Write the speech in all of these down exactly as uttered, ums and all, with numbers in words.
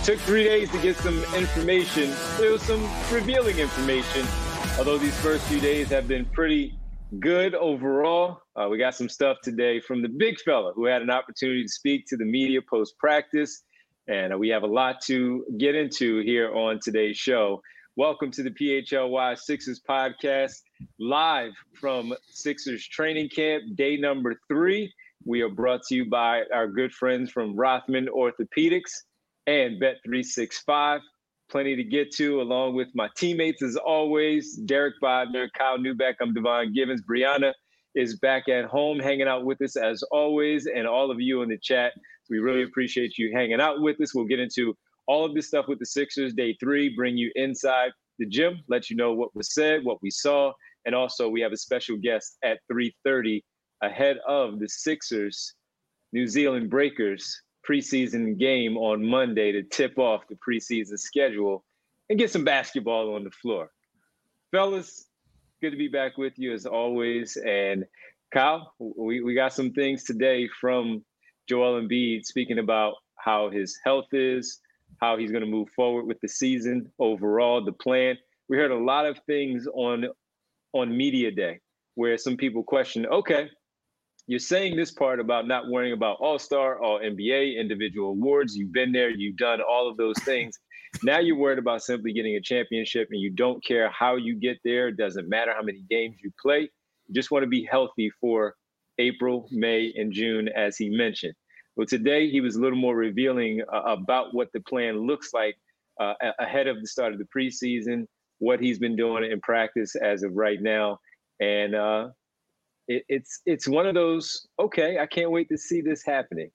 took three days to get some information. There was some revealing information, although these first few days have been pretty good overall. Uh, we got some stuff today from the big fella who had an opportunity to speak to the media post-practice, and uh, we have a lot to get into here on today's show. Welcome to the P H L Y Sixers podcast, live from Sixers training camp, day number three. We are brought to you by our good friends from Rothman Orthopedics and Bet three sixty-five. Plenty to get to, along with my teammates as always, Derek Bodner, Kyle Newbeck, I'm Devon Givens. Brianna is back at home hanging out with us as always, and all of you in the chat. We really appreciate you hanging out with us. We'll get into all of this stuff with the Sixers, day three, bring you inside the gym, let you know what was said, what we saw, and also we have a special guest at three thirty ahead of the Sixers, New Zealand Breakers preseason game on Monday to tip off the preseason schedule and get some basketball on the floor. Fellas, good to be back with you as always. And Kyle, we, we got some things today from Joel Embiid speaking about how his health is, how he's going to move forward with the season overall, the plan. We heard a lot of things on, on Media Day where some people question, okay, you're saying this part about not worrying about All-Star, All-N B A, individual awards. You've been there. You've done all of those things. Now you're worried about simply getting a championship, and you don't care how you get there. It doesn't matter how many games you play. You just want to be healthy for April, May, and June, as he mentioned. Well, today he was a little more revealing uh, about what the plan looks like uh, ahead of the start of the preseason, what he's been doing in practice as of right now. And, uh, It, it's it's one of those, okay, I can't wait to see this happening.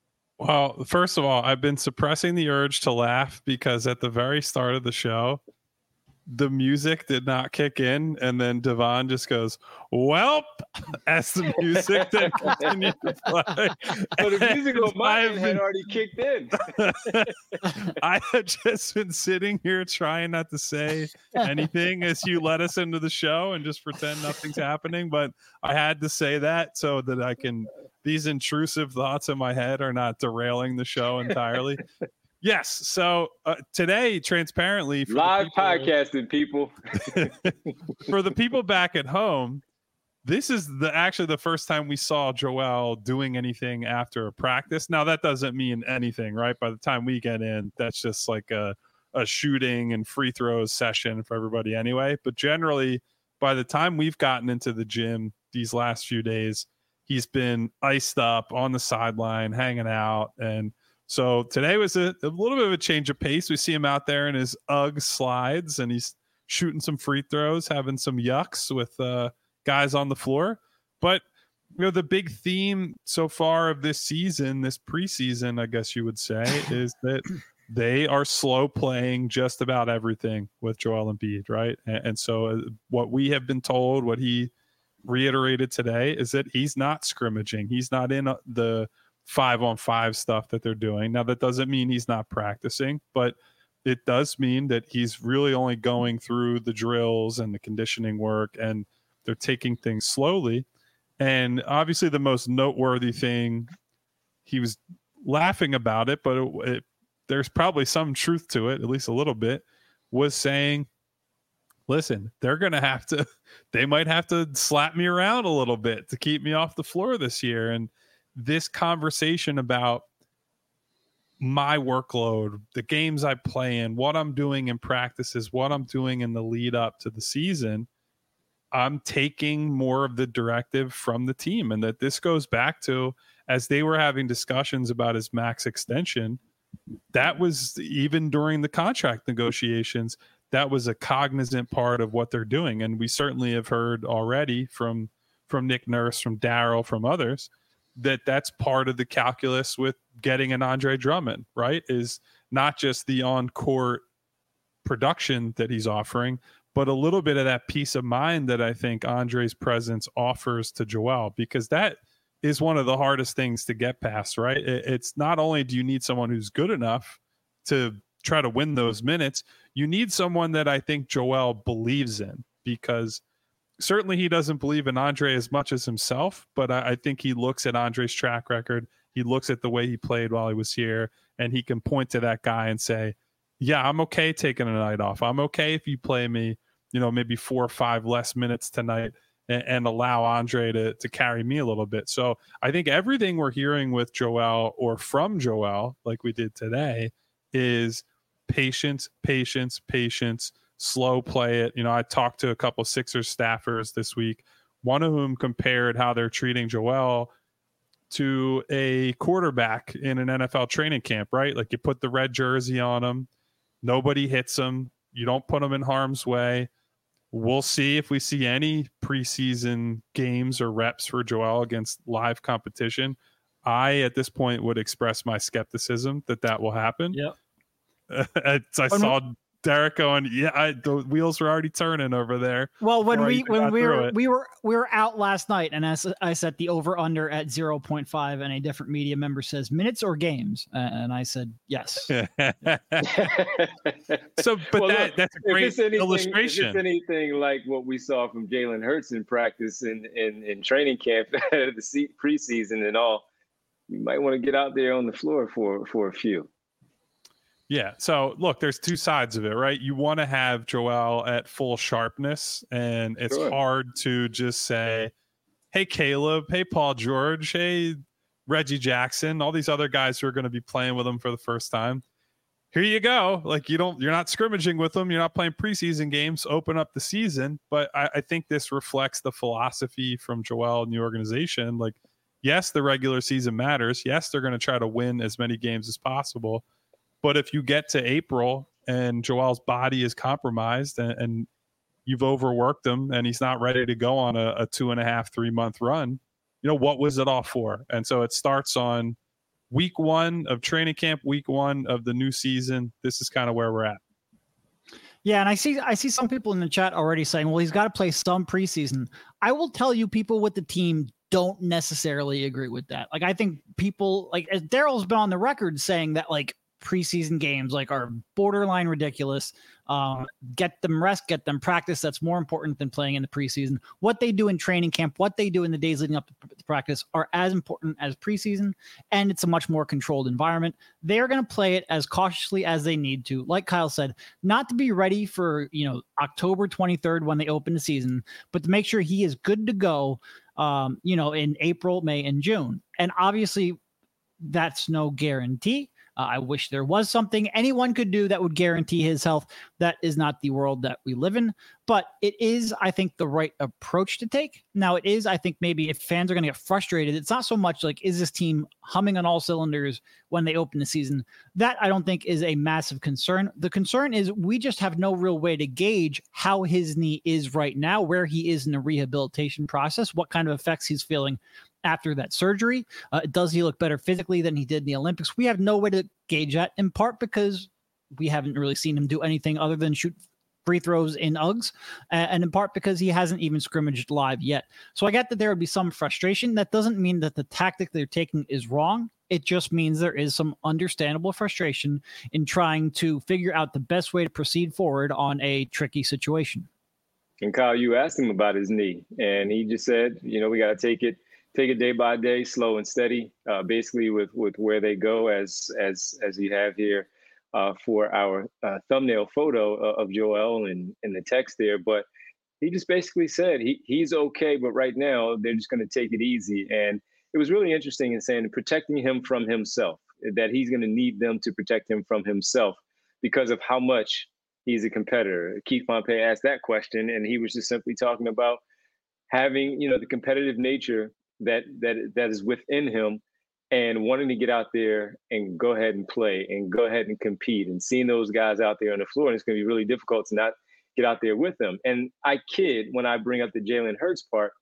Well, first of all, I've been suppressing the urge to laugh because at the very start of the show, the music did not kick in. And then Devon just goes, welp, as the music then continued to play. So the music on mine I've had been, already kicked in. I had just been sitting here trying not to say anything as you let us into the show and just pretend nothing's happening. But I had to say that so that I can, these intrusive thoughts in my head are not derailing the show entirely. Yes. So uh, today, transparently, for live people, podcasting, people. for the people back at home, this is the actually the first time we saw Joel doing anything after a practice. Now that doesn't mean anything, right? By the time we get in, that's just like a a shooting and free throws session for everybody anyway. But generally, by the time we've gotten into the gym these last few days, he's been iced up on the sideline, hanging out, and so today was a, a little bit of a change of pace. We see him out there in his UGG slides, and he's shooting some free throws, having some yucks with uh, guys on the floor. But, you know, the big theme so far of this season, this preseason, I guess you would say, is that they are slow playing just about everything with Joel Embiid, right? And, and so uh, what we have been told, what he reiterated today, is that he's not scrimmaging. He's not in uh, the five on five stuff that they're doing. Now that doesn't mean he's not practicing, but it does mean that he's really only going through the drills and the conditioning work, and they're taking things slowly. And obviously the most noteworthy thing, he was laughing about it, but it, it, there's probably some truth to it, at least a little bit, was saying, listen, they're going to have to, they might have to slap me around a little bit to keep me off the floor this year. And this conversation about my workload, the games I play in, what I'm doing in practices, what I'm doing in the lead up to the season, I'm taking more of the directive from the team. And that this goes back to, as they were having discussions about his max extension, that was even during the contract negotiations, that was a cognizant part of what they're doing. And we certainly have heard already from, from Nick Nurse, from Daryl, from others, that that's part of the calculus with getting an Andre Drummond, right? Is not just the on-court production that he's offering, but a little bit of that peace of mind that I think Andre's presence offers to Joel, because that is one of the hardest things to get past, right? It's not only do you need someone who's good enough to try to win those minutes, you need someone that I think Joel believes in, because certainly he doesn't believe in Andre as much as himself, but I, I think he looks at Andre's track record he looks at the way he played while he was here, and he can point to that guy and say, yeah, I'm okay taking a night off. I'm okay if you play me, you know, maybe four or five less minutes tonight and, and allow Andre to, to carry me a little bit. So I think everything we're hearing with Joel or from Joel, like we did today, is patience, patience, patience, slow play it. You know, I talked to a couple Sixers staffers this week, one of whom compared how they're treating Joel to a quarterback in an N F L training camp, right? Like you put the red jersey on him, nobody hits him, you don't put him in harm's way. We'll see if we see any preseason games or reps for Joel against live competition. I, at this point, would express my skepticism that that will happen. Yep. I saw Derek going, yeah, I, the wheels were already turning over there. Well, when we when we were it. we were we were out last night, and as I set the over under at zero point five, and a different media member says minutes or games, uh, and I said yes. So, but well, that look, that's a great if anything, illustration. If it's anything like what we saw from Jalen Hurts in practice in in, in training camp, the preseason and all, you might want to get out there on the floor for for a few. Yeah. So look, there's two sides of it, right? You want to have Joel at full sharpness, and it's sure. hard to just say, hey, Caleb, hey, Paul George, hey, Reggie Jackson, all these other guys who are going to be playing with him for the first time. Here you go. Like you don't, you're not scrimmaging with them. You're not playing preseason games, open up the season. But I, I think this reflects the philosophy from Joel and the organization. Like, yes, the regular season matters. Yes, they're going to try to win as many games as possible. But if you get to April and Joel's body is compromised and, and you've overworked him and he's not ready to go on a, a two and a half, three month run, you know, what was it all for? And so it starts on week one of training camp, week one of the new season. This is kind of where we're at. Yeah, and I see I see some people in the chat already saying, well, he's got to play some preseason. I will tell you, people with the team don't necessarily agree with that. Like, I think people, like, Daryl's been on the record saying that, like, preseason games like are borderline ridiculous. Um, get them rest, get them practice. That's more important than playing in the preseason. What they do in training camp, what they do in the days leading up to practice are as important as preseason, and it's a much more controlled environment. They're going to play it as cautiously as they need to. Like Kyle said, not to be ready for, you know, October twenty-third when they open the season, but to make sure he is good to go, um, you know, in April, May, and June. And obviously that's no guarantee. Uh, I wish there was something anyone could do that would guarantee his health. That is not the world that we live in, but it is, I think, the right approach to take. Now, it is, I think, maybe if fans are going to get frustrated, it's not so much like, is this team humming on all cylinders when they open the season? That I don't think is a massive concern. The concern is we just have no real way to gauge how his knee is right now, where he is in the rehabilitation process, what kind of effects he's feeling after that surgery. Uh, does he look better physically than he did in the Olympics? We have no way to gauge that, in part because we haven't really seen him do anything other than shoot free throws in Uggs, and in part because he hasn't even scrimmaged live yet. So I get that there would be some frustration. That doesn't mean that the tactic they're taking is wrong. It just means there is some understandable frustration in trying to figure out the best way to proceed forward on a tricky situation. And Kyle, you asked him about his knee, and he just said, you know, we got to take it Take it day by day, slow and steady, uh, basically with, with where they go, as as as you have here uh, for our uh, thumbnail photo of Joel and, and the text there. But he just basically said he he's okay, but right now they're just going to take it easy. And it was really interesting in saying protecting him from himself, that he's going to need them to protect him from himself because of how much he's a competitor. Keith Pompey asked that question, and he was just simply talking about having, you know, the competitive nature that that that is within him and wanting to get out there and go ahead and play and go ahead and compete and seeing those guys out there on the floor. And it's going to be really difficult to not get out there with them. And I kid when I bring up the Jalen Hurts part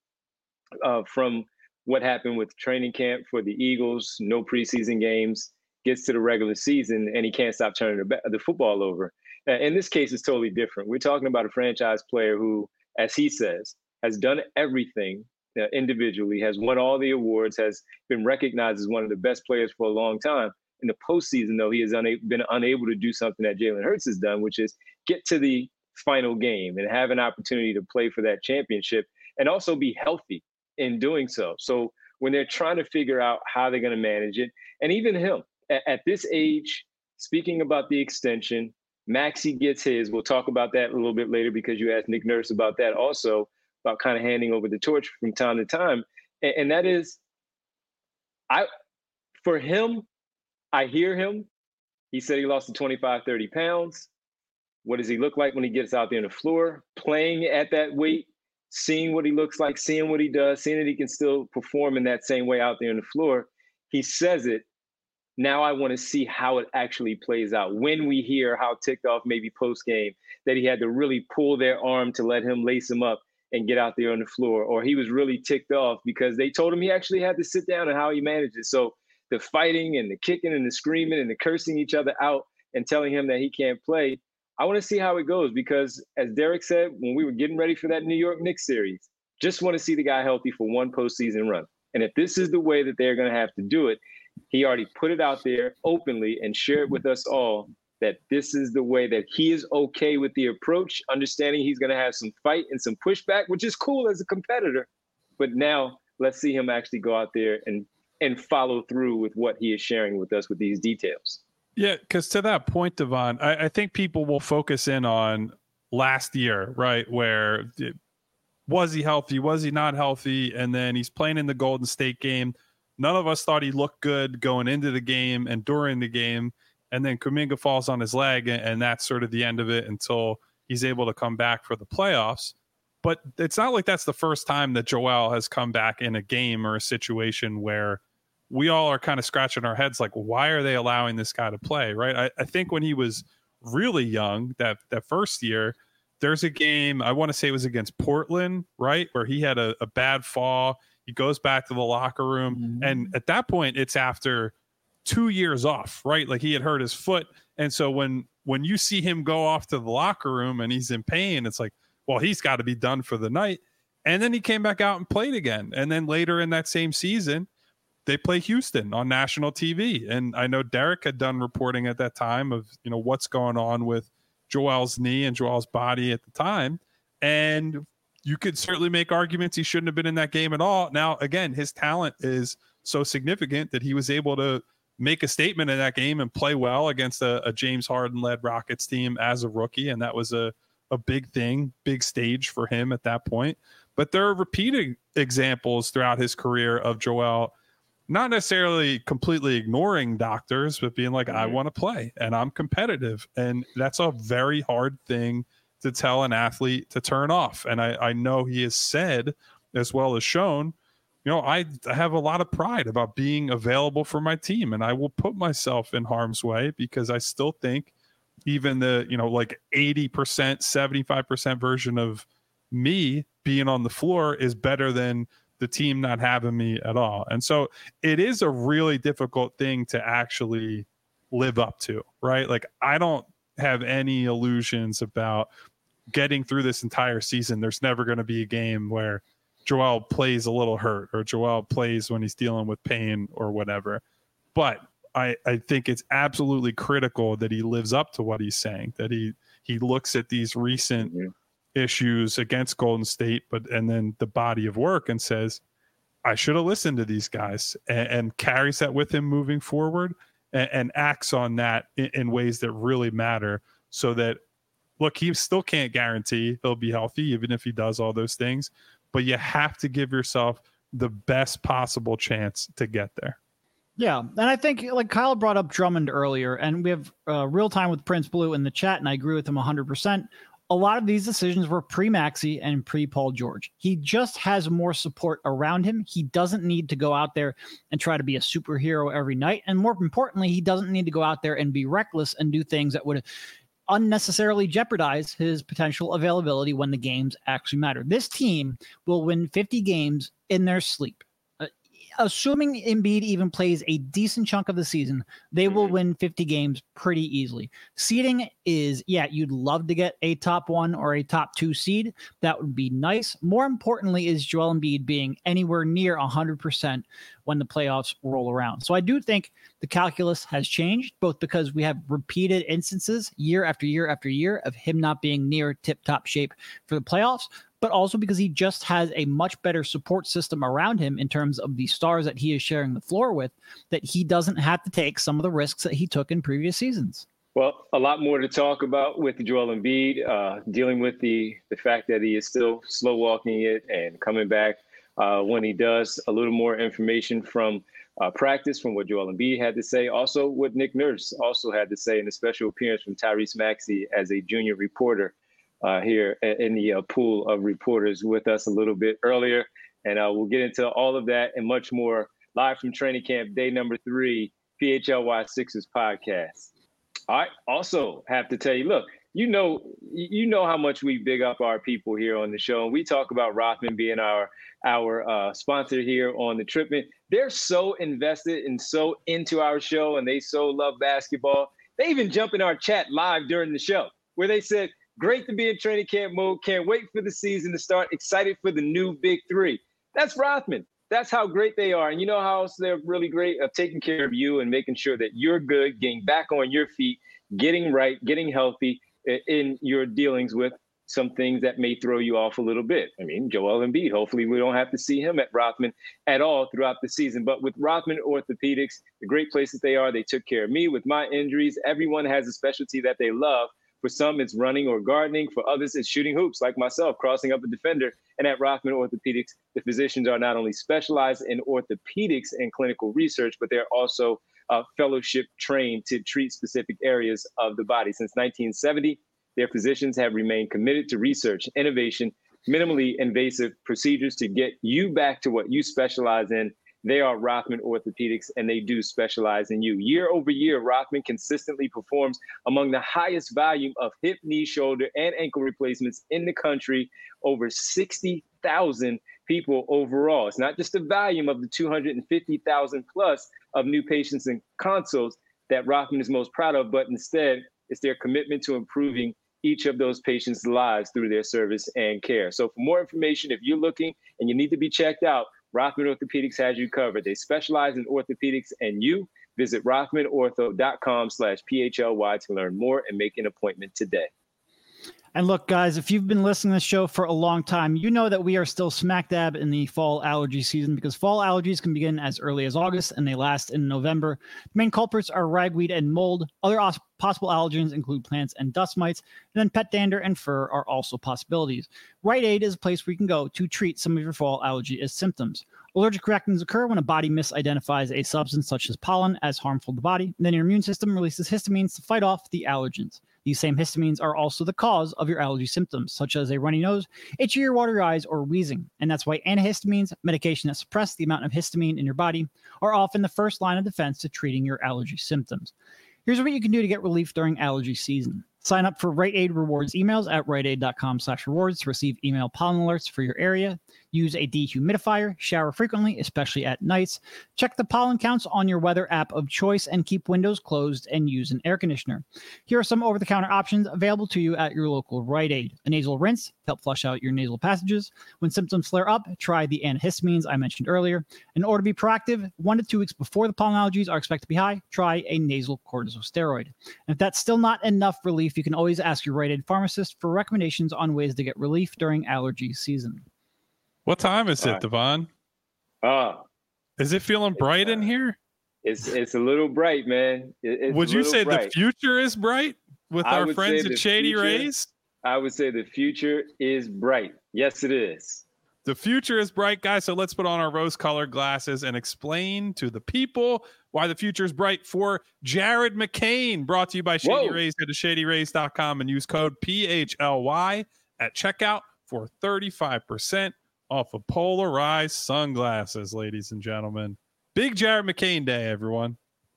uh, from what happened with training camp for the Eagles, no preseason games, gets to the regular season, and he can't stop turning the, the football over. Uh, in this case, it's totally different. We're talking about a franchise player who, as he says, has done everything Uh, individually, has won all the awards, has been recognized as one of the best players for a long time. In the postseason, though, he has una- been unable to do something that Jalen Hurts has done, which is get to the final game and have an opportunity to play for that championship and also be healthy in doing so. So when they're trying to figure out how they're going to manage it. And even him, at, at this age, speaking about the extension, Maxey gets his. We'll talk about that a little bit later because you asked Nick Nurse about that also, about kind of handing over the torch from time to time. And, and that is, I, for him, I hear him. He said he lost to twenty-five, thirty pounds. What does he look like when he gets out there on the floor, playing at that weight, seeing what he looks like, seeing what he does, seeing that he can still perform in that same way out there on the floor? He says it. Now I want to see how it actually plays out. When we hear how ticked off maybe post-game that he had to really pull their arm to let him lace him up and get out there on the floor, or he was really ticked off because they told him he actually had to sit down and how he managed it. So the fighting and the kicking and the screaming and the cursing each other out and telling him that he can't play, I want to see how it goes because, as Derek said, when we were getting ready for that New York Knicks series, just want to see the guy healthy for one postseason run. And if this is the way that they're going to have to do it, he already put it out there openly and shared with us all that this is the way that he is okay with the approach, understanding he's going to have some fight and some pushback, which is cool as a competitor. But now let's see him actually go out there and, and follow through with what he is sharing with us with these details. Yeah, because to that point, Devon, I, I think people will focus in on last year, right? Where it, was he healthy? Was he not healthy? And then he's playing in the Golden State game. None of us thought he looked good going into the game and during the game. And then Kuminga falls on his leg, and, and that's sort of the end of it until he's able to come back for the playoffs. But it's not like that's the first time that Joel has come back in a game or a situation where we all are kind of scratching our heads like, why are they allowing this guy to play, right? I, I think when he was really young, that that first year, there's a game, I want to say it was against Portland, right, where he had a, a bad fall. He goes back to the locker room. Mm-hmm. And at that point, it's after two years off, right? Like he had hurt his foot. And so when when you see him go off to the locker room and he's in pain, it's like, well, he's got to be done for the night. And then he came back out and played again. And then later in that same season, they play Houston on national T V. And I know Derek had done reporting at that time of, you know, what's going on with Joel's knee and Joel's body at the time. And you could certainly make arguments he shouldn't have been in that game at all. Now, again, his talent is so significant that he was able to make a statement in that game and play well against a, a James Harden-led Rockets team as a rookie. And that was a, a big thing, big stage for him at that point. But there are repeated examples throughout his career of Joel not necessarily completely ignoring doctors, but being like, I want to play and I'm competitive. And that's a very hard thing to tell an athlete to turn off. And I, I know he has said, as well as shown, you know, I, I have a lot of pride about being available for my team, and I will put myself in harm's way because I still think even the, you know, like eighty percent, seventy-five percent version of me being on the floor is better than the team not having me at all. And so it is a really difficult thing to actually live up to, right? Like I don't have any illusions about getting through this entire season. There's never going to be a game where Joel plays a little hurt or Joel plays when he's dealing with pain or whatever. But I, I think it's absolutely critical that he lives up to what he's saying, that he, he looks at these recent mm-hmm. issues against Golden State, but and then the body of work and says, I should have listened to these guys, and, and carries that with him moving forward and, and acts on that in, in ways that really matter so that, look, he still can't guarantee he'll be healthy, even if he does all those things, but you have to give yourself the best possible chance to get there. Yeah, and I think like Kyle brought up Drummond earlier, and we have uh, real time with Prince Blue in the chat, and I agree with him one hundred percent. A lot of these decisions were pre-Maxey and pre-Paul George. He just has more support around him. He doesn't need to go out there and try to be a superhero every night. And more importantly, he doesn't need to go out there and be reckless and do things that would unnecessarily jeopardize his potential availability when the games actually matter. This team will win fifty games in their sleep. Uh, assuming Embiid even plays a decent chunk of the season, they will win fifty games pretty easily. Seeding is, yeah, you'd love to get a top one or a top two seed. That would be nice. More importantly is Joel Embiid being anywhere near one hundred percent when the playoffs roll around. So I do think the calculus has changed, both because we have repeated instances year after year after year of him not being near tip-top shape for the playoffs, but also because he just has a much better support system around him in terms of the stars that he is sharing the floor with, that he doesn't have to take some of the risks that he took in previous seasons. Well, a lot more to talk about with Joel Embiid, uh, dealing with the the fact that he is still slow walking it and coming back uh, when he does. A little more information from uh, practice, from what Joel Embiid had to say. Also, what Nick Nurse also had to say in a special appearance from Tyrese Maxey as a junior reporter uh, here in the uh, pool of reporters with us a little bit earlier. And uh, we'll get into all of that and much more live from training camp, day number three, P H L Y Sixers podcast. I also have to tell you, look, you know, you know how much we big up our people here on the show. And we talk about Rothman being our our uh, sponsor here on the Tripman. They're so invested and so into our show, and they so love basketball. They even jump in our chat live during the show where they said, great to be in training camp mode. Can't wait for the season to start. Excited for the new big three. That's Rothman. That's how great they are. And you know how else they're really great at taking care of you and making sure that you're good, getting back on your feet, getting right, getting healthy in your dealings with some things that may throw you off a little bit. I mean, Joel Embiid, hopefully we don't have to see him at Rothman at all throughout the season. But with Rothman Orthopedics, the great place that they are, they took care of me with my injuries. Everyone has a specialty that they love. For some, it's running or gardening. For others, it's shooting hoops, like myself, crossing up a defender. And at Rothman Orthopedics, the physicians are not only specialized in orthopedics and clinical research, but they're also uh, fellowship trained to treat specific areas of the body. Since nineteen seventy, their physicians have remained committed to research, innovation, minimally invasive procedures to get you back to what you specialize in. They are Rothman Orthopedics, and they do specialize in you. Year over year, Rothman consistently performs among the highest volume of hip, knee, shoulder, and ankle replacements in the country, over sixty thousand people overall. It's not just the volume of the two hundred fifty thousand plus of new patients and consults that Rothman is most proud of, but instead it's their commitment to improving each of those patients' lives through their service and care. So for more information, if you're looking and you need to be checked out, Rothman Orthopedics has you covered. They specialize in orthopedics and you. Visit rothmanortho.com slash PHLY to learn more and make an appointment today. And look, guys, if you've been listening to this show for a long time, you know that we are still smack dab in the fall allergy season because fall allergies can begin as early as August and they last in November. The main culprits are ragweed and mold. Other os- possible allergens include plants and dust mites. And then pet dander and fur are also possibilities. Rite Aid is a place where you can go to treat some of your fall allergy as symptoms. Allergic reactions occur when a body misidentifies a substance such as pollen as harmful to the body. Then your immune system releases histamines to fight off the allergens. These same histamines are also the cause of your allergy symptoms, such as a runny nose, itchy or watery eyes, or wheezing. And that's why antihistamines, medication that suppress the amount of histamine in your body, are often the first line of defense to treating your allergy symptoms. Here's what you can do to get relief during allergy season. Sign up for Rite Aid Rewards emails at riteaid.com slash rewards to receive email pollen alerts for your area. Use a dehumidifier, shower frequently, especially at nights. Check the pollen counts on your weather app of choice and keep windows closed and use an air conditioner. Here are some over-the-counter options available to you at your local Rite Aid. A nasal rinse to help flush out your nasal passages. When symptoms flare up, try the antihistamines I mentioned earlier. In order to be proactive, one to two weeks before the pollen allergies are expected to be high, try a nasal corticosteroid. And if that's still not enough relief, you can always ask your Rite Aid pharmacist for recommendations on ways to get relief during allergy season. What time is it, right. Devon? Uh, is it feeling bright uh, in here? It's it's a little bright, man. It, it's would you say bright. The future is bright with I our friends at Shady future, Rays? I would say the future is bright. Yes, it is. The future is bright, guys. So let's put on our rose-colored glasses and explain to the people why the future is bright for Jared McCain. Brought to you by Shady Whoa. Rays. Go to shady rays dot com and use code P H L Y at checkout for thirty-five percent off of polarized sunglasses, ladies and gentlemen. Big Jared McCain Day, everyone.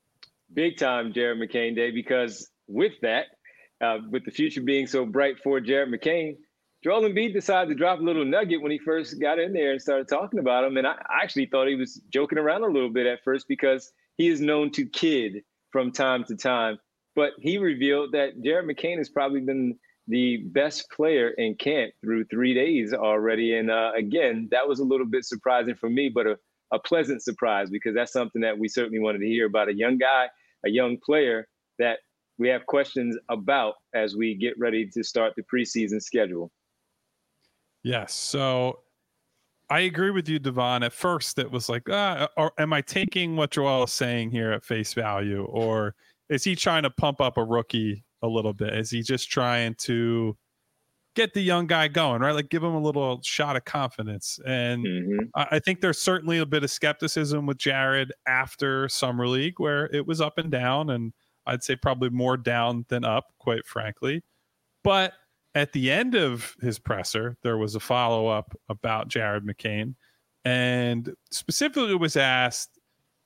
Big time Jared McCain Day, because with that, uh, with the future being so bright for Jared McCain, Joel Embiid decided to drop a little nugget when he first got in there and started talking about him. And I actually thought he was joking around a little bit at first because he is known to kid from time to time. But he revealed that Jared McCain has probably been the best player in camp through three days already. And uh, again, that was a little bit surprising for me, but a, a pleasant surprise because that's something that we certainly wanted to hear about a young guy, a young player that we have questions about as we get ready to start the preseason schedule. Yes. So I agree with you, Devon. At first, it was like, ah, or am I taking what Joel is saying here at face value? Or is he trying to pump up a rookie a little bit? Is he just trying to get the young guy going, right? Like give him a little shot of confidence. And Mm-hmm. I, I think there's certainly a bit of skepticism with Jared after Summer League, where it was up and down. And I'd say probably more down than up, quite frankly. But at the end of his presser, there was a follow-up about Jared McCain, and specifically was asked,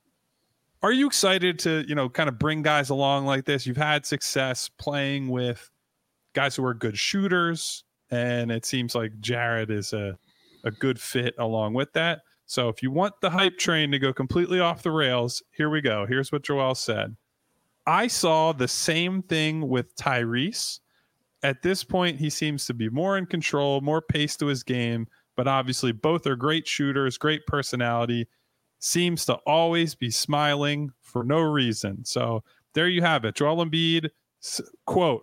are you excited to, you know, kind of bring guys along like this? You've had success playing with guys who are good shooters, and it seems like Jared is a, a good fit along with that. So if you want the hype train to go completely off the rails, here we go. Here's what Joel said. I saw the same thing with Tyrese. At this point, he seems to be more in control, more pace to his game, but obviously both are great shooters, great personality, seems to always be smiling for no reason. So there you have it. Joel Embiid, quote,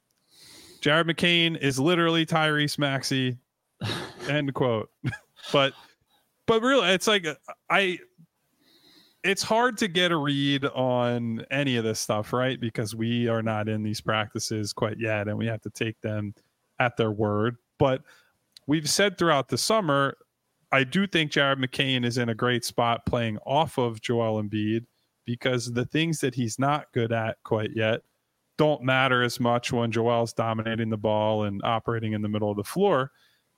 Jared McCain is literally Tyrese Maxey, end quote. but but really, it's like I it's hard to get a read on any of this stuff, right? Because we are not in these practices quite yet, and we have to take them at their word. But we've said throughout the summer, I do think Jared McCain is in a great spot playing off of Joel Embiid, because the things that he's not good at quite yet don't matter as much when Joel's dominating the ball and operating in the middle of the floor.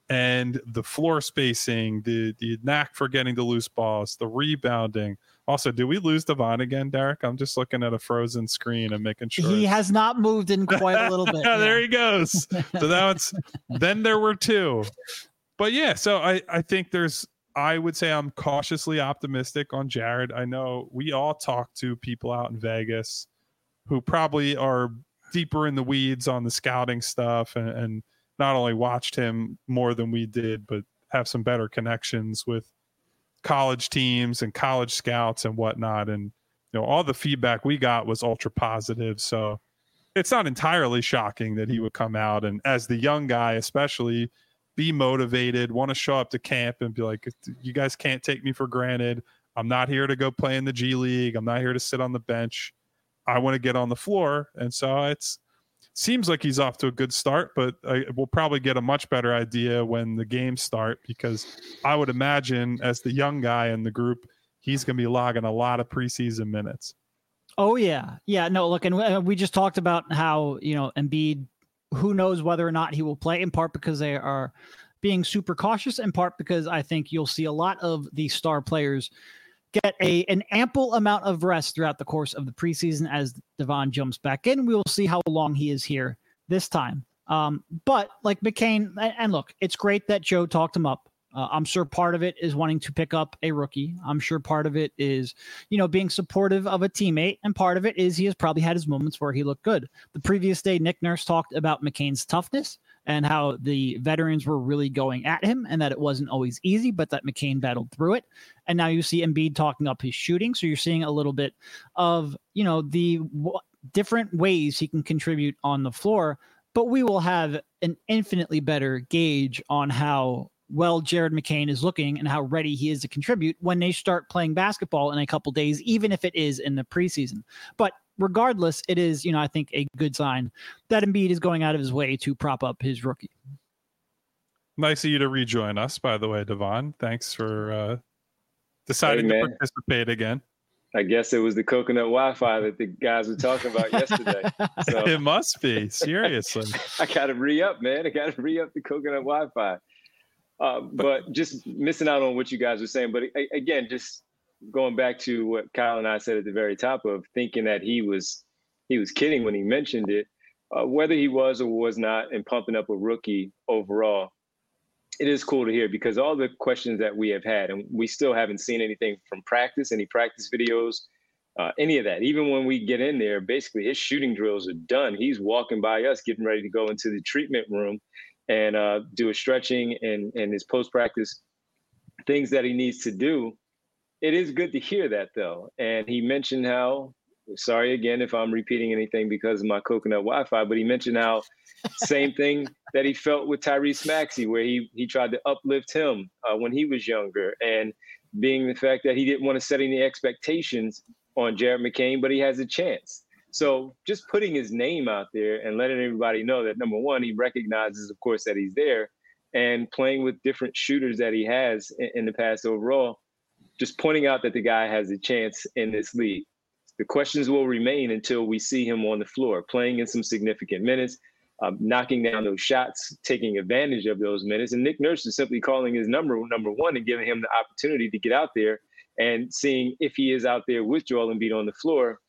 And the floor spacing, the the knack for getting the loose balls, the rebounding. Also, did we lose Devon again, Derek? I'm just looking at a frozen screen and making sure. He has not moved in quite a little bit. Yeah. There he goes. So that's then there were two. But yeah, so I, I think there's, I would say I'm cautiously optimistic on Jared. I know we all talk to people out in Vegas who probably are deeper in the weeds on the scouting stuff and, and not only watched him more than we did, but have some better connections with college teams and college scouts and whatnot. And, you know, all the feedback we got was ultra positive. So it's not entirely shocking that he would come out and, as the young guy, especially, be motivated, want to show up to camp and be like, you guys can't take me for granted. I'm not here to go play in the G League. I'm not here to sit on the bench. I want to get on the floor. And so it's, seems like he's off to a good start, but I, we'll probably get a much better idea when the games start, because I would imagine as the young guy in the group, he's going to be logging a lot of preseason minutes. Oh yeah. Yeah, no, look, and we just talked about how, you know, Embiid, who knows whether or not he will play, in part because they are being super cautious, in part because I think you'll see a lot of the star players get a an ample amount of rest throughout the course of the preseason as Devon jumps back in. We will see how long he is here this time. Um, but like McCain, and look, it's great that Joe talked him up. Uh, I'm sure part of it is wanting to pick up a rookie. I'm sure part of it is, you know, being supportive of a teammate. And part of it is he has probably had his moments where he looked good. The previous day, Nick Nurse talked about McCain's toughness and how the veterans were really going at him and that it wasn't always easy, but that McCain battled through it. And now you see Embiid talking up his shooting. So you're seeing a little bit of, you know, the w- different ways he can contribute on the floor, but we will have an infinitely better gauge on how well Jared McCain is looking and how ready he is to contribute when they start playing basketball in a couple days, even if it is in the preseason. But regardless, it is, you know, I think a good sign that Embiid is going out of his way to prop up his rookie. Nice of you to rejoin us, by the way, Devon. Thanks for uh, deciding hey, to participate again. I guess it was the coconut Wi-Fi that the guys were talking about yesterday. So it must be, seriously. I got to re-up, man. I got to re-up the coconut Wi-Fi. Uh, but just missing out on what you guys were saying. But again, just going back to what Kyle and I said at the very top of thinking that he was he was kidding when he mentioned it, uh, whether he was or was not, and pumping up a rookie overall, it is cool to hear, because all the questions that we have had, and we still haven't seen anything from practice, any practice videos, uh, any of that. Even when we get in there, basically his shooting drills are done. He's walking by us, getting ready to go into the treatment room and uh, do a stretching and, and his post-practice things that he needs to do. It is good to hear that, though. And he mentioned how sorry again if I'm repeating anything because of my coconut Wi-Fi, but he mentioned how same thing that he felt with Tyrese Maxey, where he he tried to uplift him uh, when he was younger, and being the fact that he didn't want to set any expectations on Jared McCain, but he has a chance. So just putting his name out there and letting everybody know that, number one, he recognizes, of course, that he's there, and playing with different shooters that he has in, in the past overall, just pointing out that the guy has a chance in this league. The questions will remain until we see him on the floor, playing in some significant minutes, um, knocking down those shots, taking advantage of those minutes. And Nick Nurse is simply calling his number number one and giving him the opportunity to get out there and seeing if he is out there with Joel Embiid on the floor,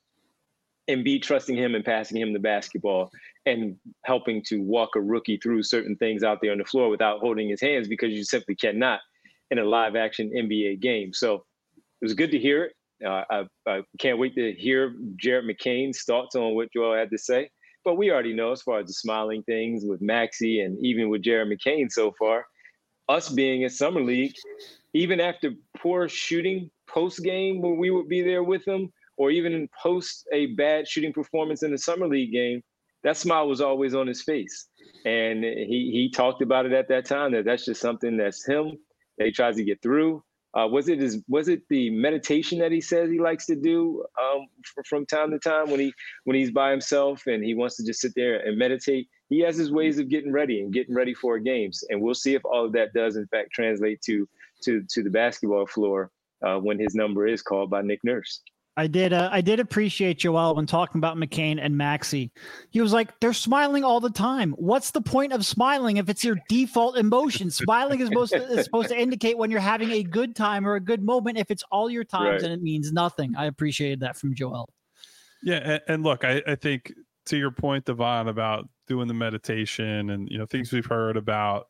Embiid trusting him and passing him the basketball and helping to walk a rookie through certain things out there on the floor without holding his hands, because you simply cannot in a live action N B A game. So it was good to hear it. Uh, I, I can't wait to hear Jared McCain's thoughts on what Joel had to say. But we already know, as far as the smiling things with Maxey and even with Jared McCain so far, us being in Summer League, even after poor shooting post-game when we would be there with him, or even in post a bad shooting performance in the Summer League game, that smile was always on his face. And he he talked about it at that time, that that's just something that's him, that he tries to get through. Uh, was it his, was it the meditation that he says he likes to do um, f- from time to time when he when he's by himself and he wants to just sit there and meditate? He has his ways of getting ready and getting ready for games, and we'll see if all of that does in fact translate to to to the basketball floor uh, when his number is called by Nick Nurse. I did. Uh, I did appreciate Joel when talking about McCain and Maxey. He was like, "They're smiling all the time. What's the point of smiling if it's your default emotion? Smiling is supposed to, is supposed to indicate when you're having a good time or a good moment. If it's all your times, Right. and it means nothing." I appreciated that from Joel. Yeah, and, and look, I, I think to your point, Devon, about doing the meditation and you know things we've heard about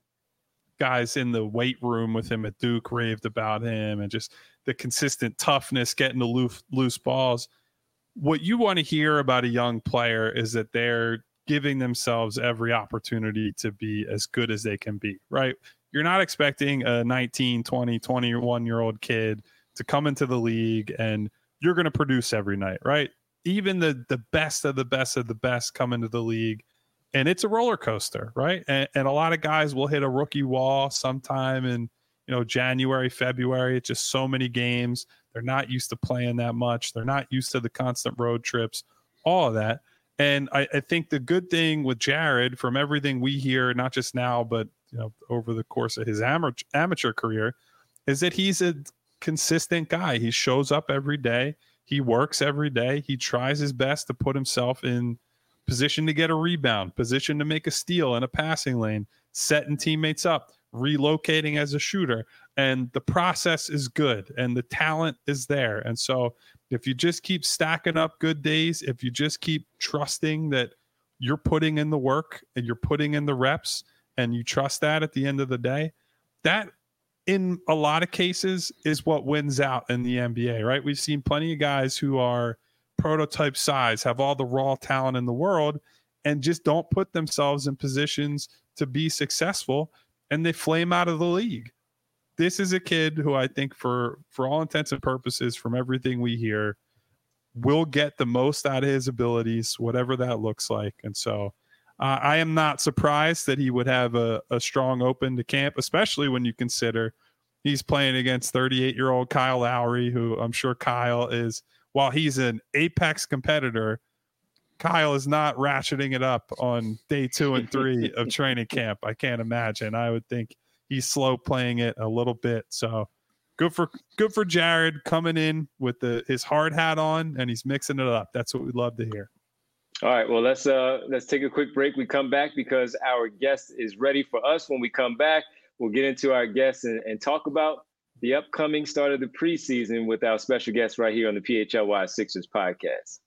guys in the weight room with him at Duke raved about him, and just the consistent toughness, getting the loose, loose balls. What you want to hear about a young player is that they're giving themselves every opportunity to be as good as they can be, right? You're not expecting a nineteen, twenty, twenty-one year old kid to come into the league and you're going to produce every night, right? Even the the best of the best of the best come into the league, and it's a roller coaster, right? And, and a lot of guys will hit a rookie wall sometime in, you know, January, February. It's just so many games. They're not used to playing that much. They're not used to the constant road trips, all of that. And I, I think the good thing with Jared, from everything we hear, not just now, but you know, over the course of his amateur amateur career, is that he's a consistent guy. He shows up every day. He works every day. He tries his best to put himself in position to get a rebound, position to make a steal in a passing lane, setting teammates up, relocating as a shooter. And the process is good and the talent is there. And so if you just keep stacking up good days, if you just keep trusting that you're putting in the work and you're putting in the reps and you trust that at the end of the day, that in a lot of cases is what wins out in the N B A, right? We've seen plenty of guys who are prototype size, have all the raw talent in the world, and just don't put themselves in positions to be successful, and they flame out of the league. This is a kid who I think for, for all intents and purposes, from everything we hear, will get the most out of his abilities, whatever that looks like. And so uh, I am not surprised that he would have a, a strong open to camp, especially when you consider he's playing against thirty-eight-year-old Kyle Lowry, who I'm sure Kyle is, while he's an apex competitor, Kyle is not ratcheting it up on day two and three of training camp. I can't imagine. I would think he's slow playing it a little bit. So good for good for Jared coming in with the his hard hat on, and he's mixing it up. That's what we'd love to hear. All right, well, let's uh, let's take a quick break. We come back because our guest is ready for us. When we come back, we'll get into our guests and, and talk about the upcoming start of the preseason with our special guest right here on the P H L Y Sixers podcast.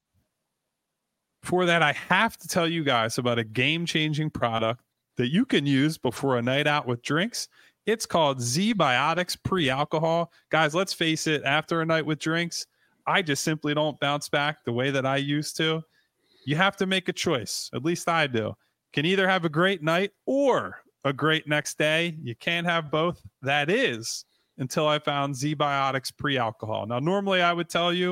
For that, I have to tell you guys about a game-changing product that you can use before a night out with drinks. It's called Z-Biotics Pre-Alcohol. Guys, let's face it, after a night with drinks, I just simply don't bounce back the way that I used to. You have to make a choice. At least I do. Can either have a great night or a great next day. You can't have both. That is until I found Z-Biotics Pre-Alcohol. Now, normally I would tell you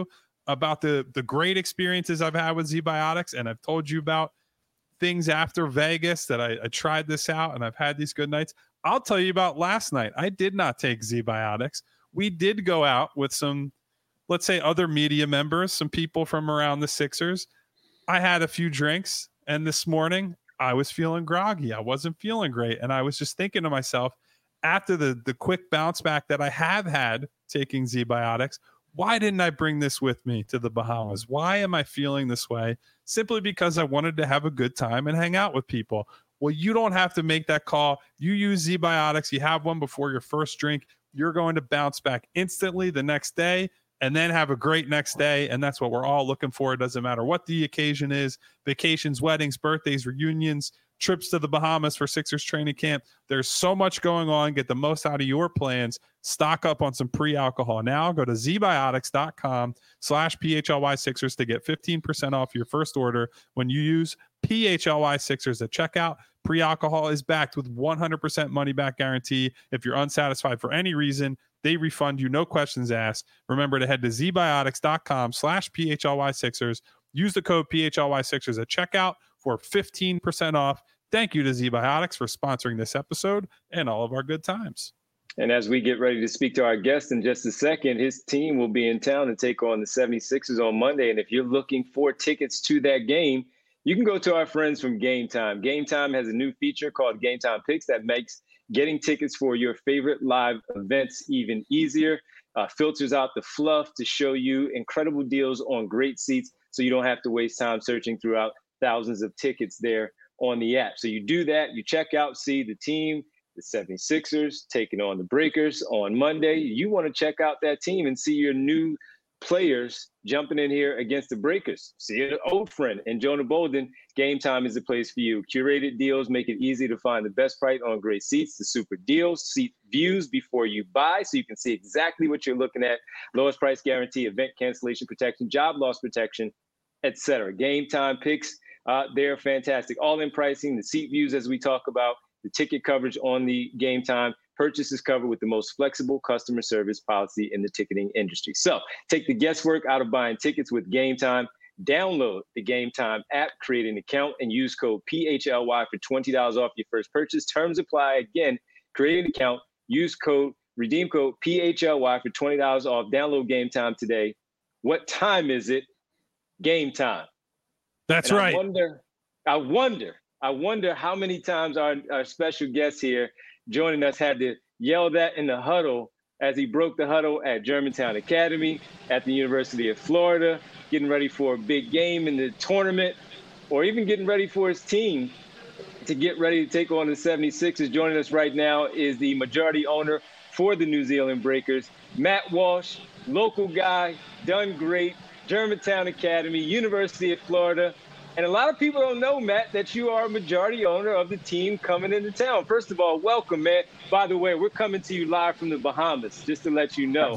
about the the great experiences I've had with Z-Biotics, and I've told you about things after Vegas that I, I tried this out and I've had these good nights. I'll tell you about last night. I did not take Z-Biotics. We did go out with some, let's say, other media members, some people from around the Sixers. I had a few drinks, and this morning I was feeling groggy. I wasn't feeling great. And I was just thinking to myself, after the, the quick bounce back that I have had taking Z-Biotics, why didn't I bring this with me to the Bahamas? Why am I feeling this way? Simply because I wanted to have a good time and hang out with people. Well, you don't have to make that call. You use Z-Biotics. You have one before your first drink. You're going to bounce back instantly the next day and then have a great next day. And that's what we're all looking for. It doesn't matter what the occasion is: vacations, weddings, birthdays, reunions, trips to the Bahamas for Sixers training camp. There's so much going on. Get the most out of your plans. Stock up on some pre-alcohol now. Go to zbiotics.com slash PHLY Sixers to get fifteen percent off your first order when you use P H L Y Sixers at checkout. Pre-alcohol is backed with one hundred percent money back guarantee. If you're unsatisfied for any reason, they refund you, no questions asked. Remember to head to zbiotics.com slash PHLY Sixers. Use the code P H L Y Sixers at checkout for fifteen percent off. Thank you to Z-Biotics for sponsoring this episode and all of our good times. And as we get ready to speak to our guest in just a second, his team will be in town to take on the seventy-sixers on Monday. And if you're looking for tickets to that game, you can go to our friends from Game Time. Game Time has a new feature called Game Time Picks that makes getting tickets for your favorite live events even easier. Uh, filters out the fluff to show you incredible deals on great seats, so you don't have to waste time searching throughout thousands of tickets there on the app. So you do that, you check out, see the team, the seventy-sixers taking on the Breakers on Monday. You want to check out that team and see your new players jumping in here against the Breakers. See an old friend and Jonah Bolden. Game Time is the place for you. Curated deals make it easy to find the best price on great seats, the super deals, seat views before you buy, so you can see exactly what you're looking at. Lowest price guarantee, event cancellation protection, job loss protection, et cetera. Game Time Picks, uh, they're fantastic. All-in pricing, the seat views as we talk about, the ticket coverage on the Game Time. Purchase is covered with the most flexible customer service policy in the ticketing industry. So take the guesswork out of buying tickets with Game Time. Download the Game Time app, create an account, and use code P H L Y for twenty dollars off your first purchase. Terms apply. Again, create an account, use code, redeem code P H L Y for twenty dollars off. Download Game Time today. What time is it? Game Time. That's and right. I wonder, I wonder, I wonder how many times our, our special guest here joining us had to yell that in the huddle as he broke the huddle at Germantown Academy, at the University of Florida, getting ready for a big game in the tournament, or even getting ready for his team to get ready to take on the seventy-sixers. Joining us right now is the majority owner for the New Zealand Breakers, Matt Walsh, local guy, done great, Germantown Academy, University of Florida. And a lot of people don't know, Matt, that you are a majority owner of the team coming into town. First of all, welcome, man. By the way, we're coming to you live from the Bahamas, just to let you know,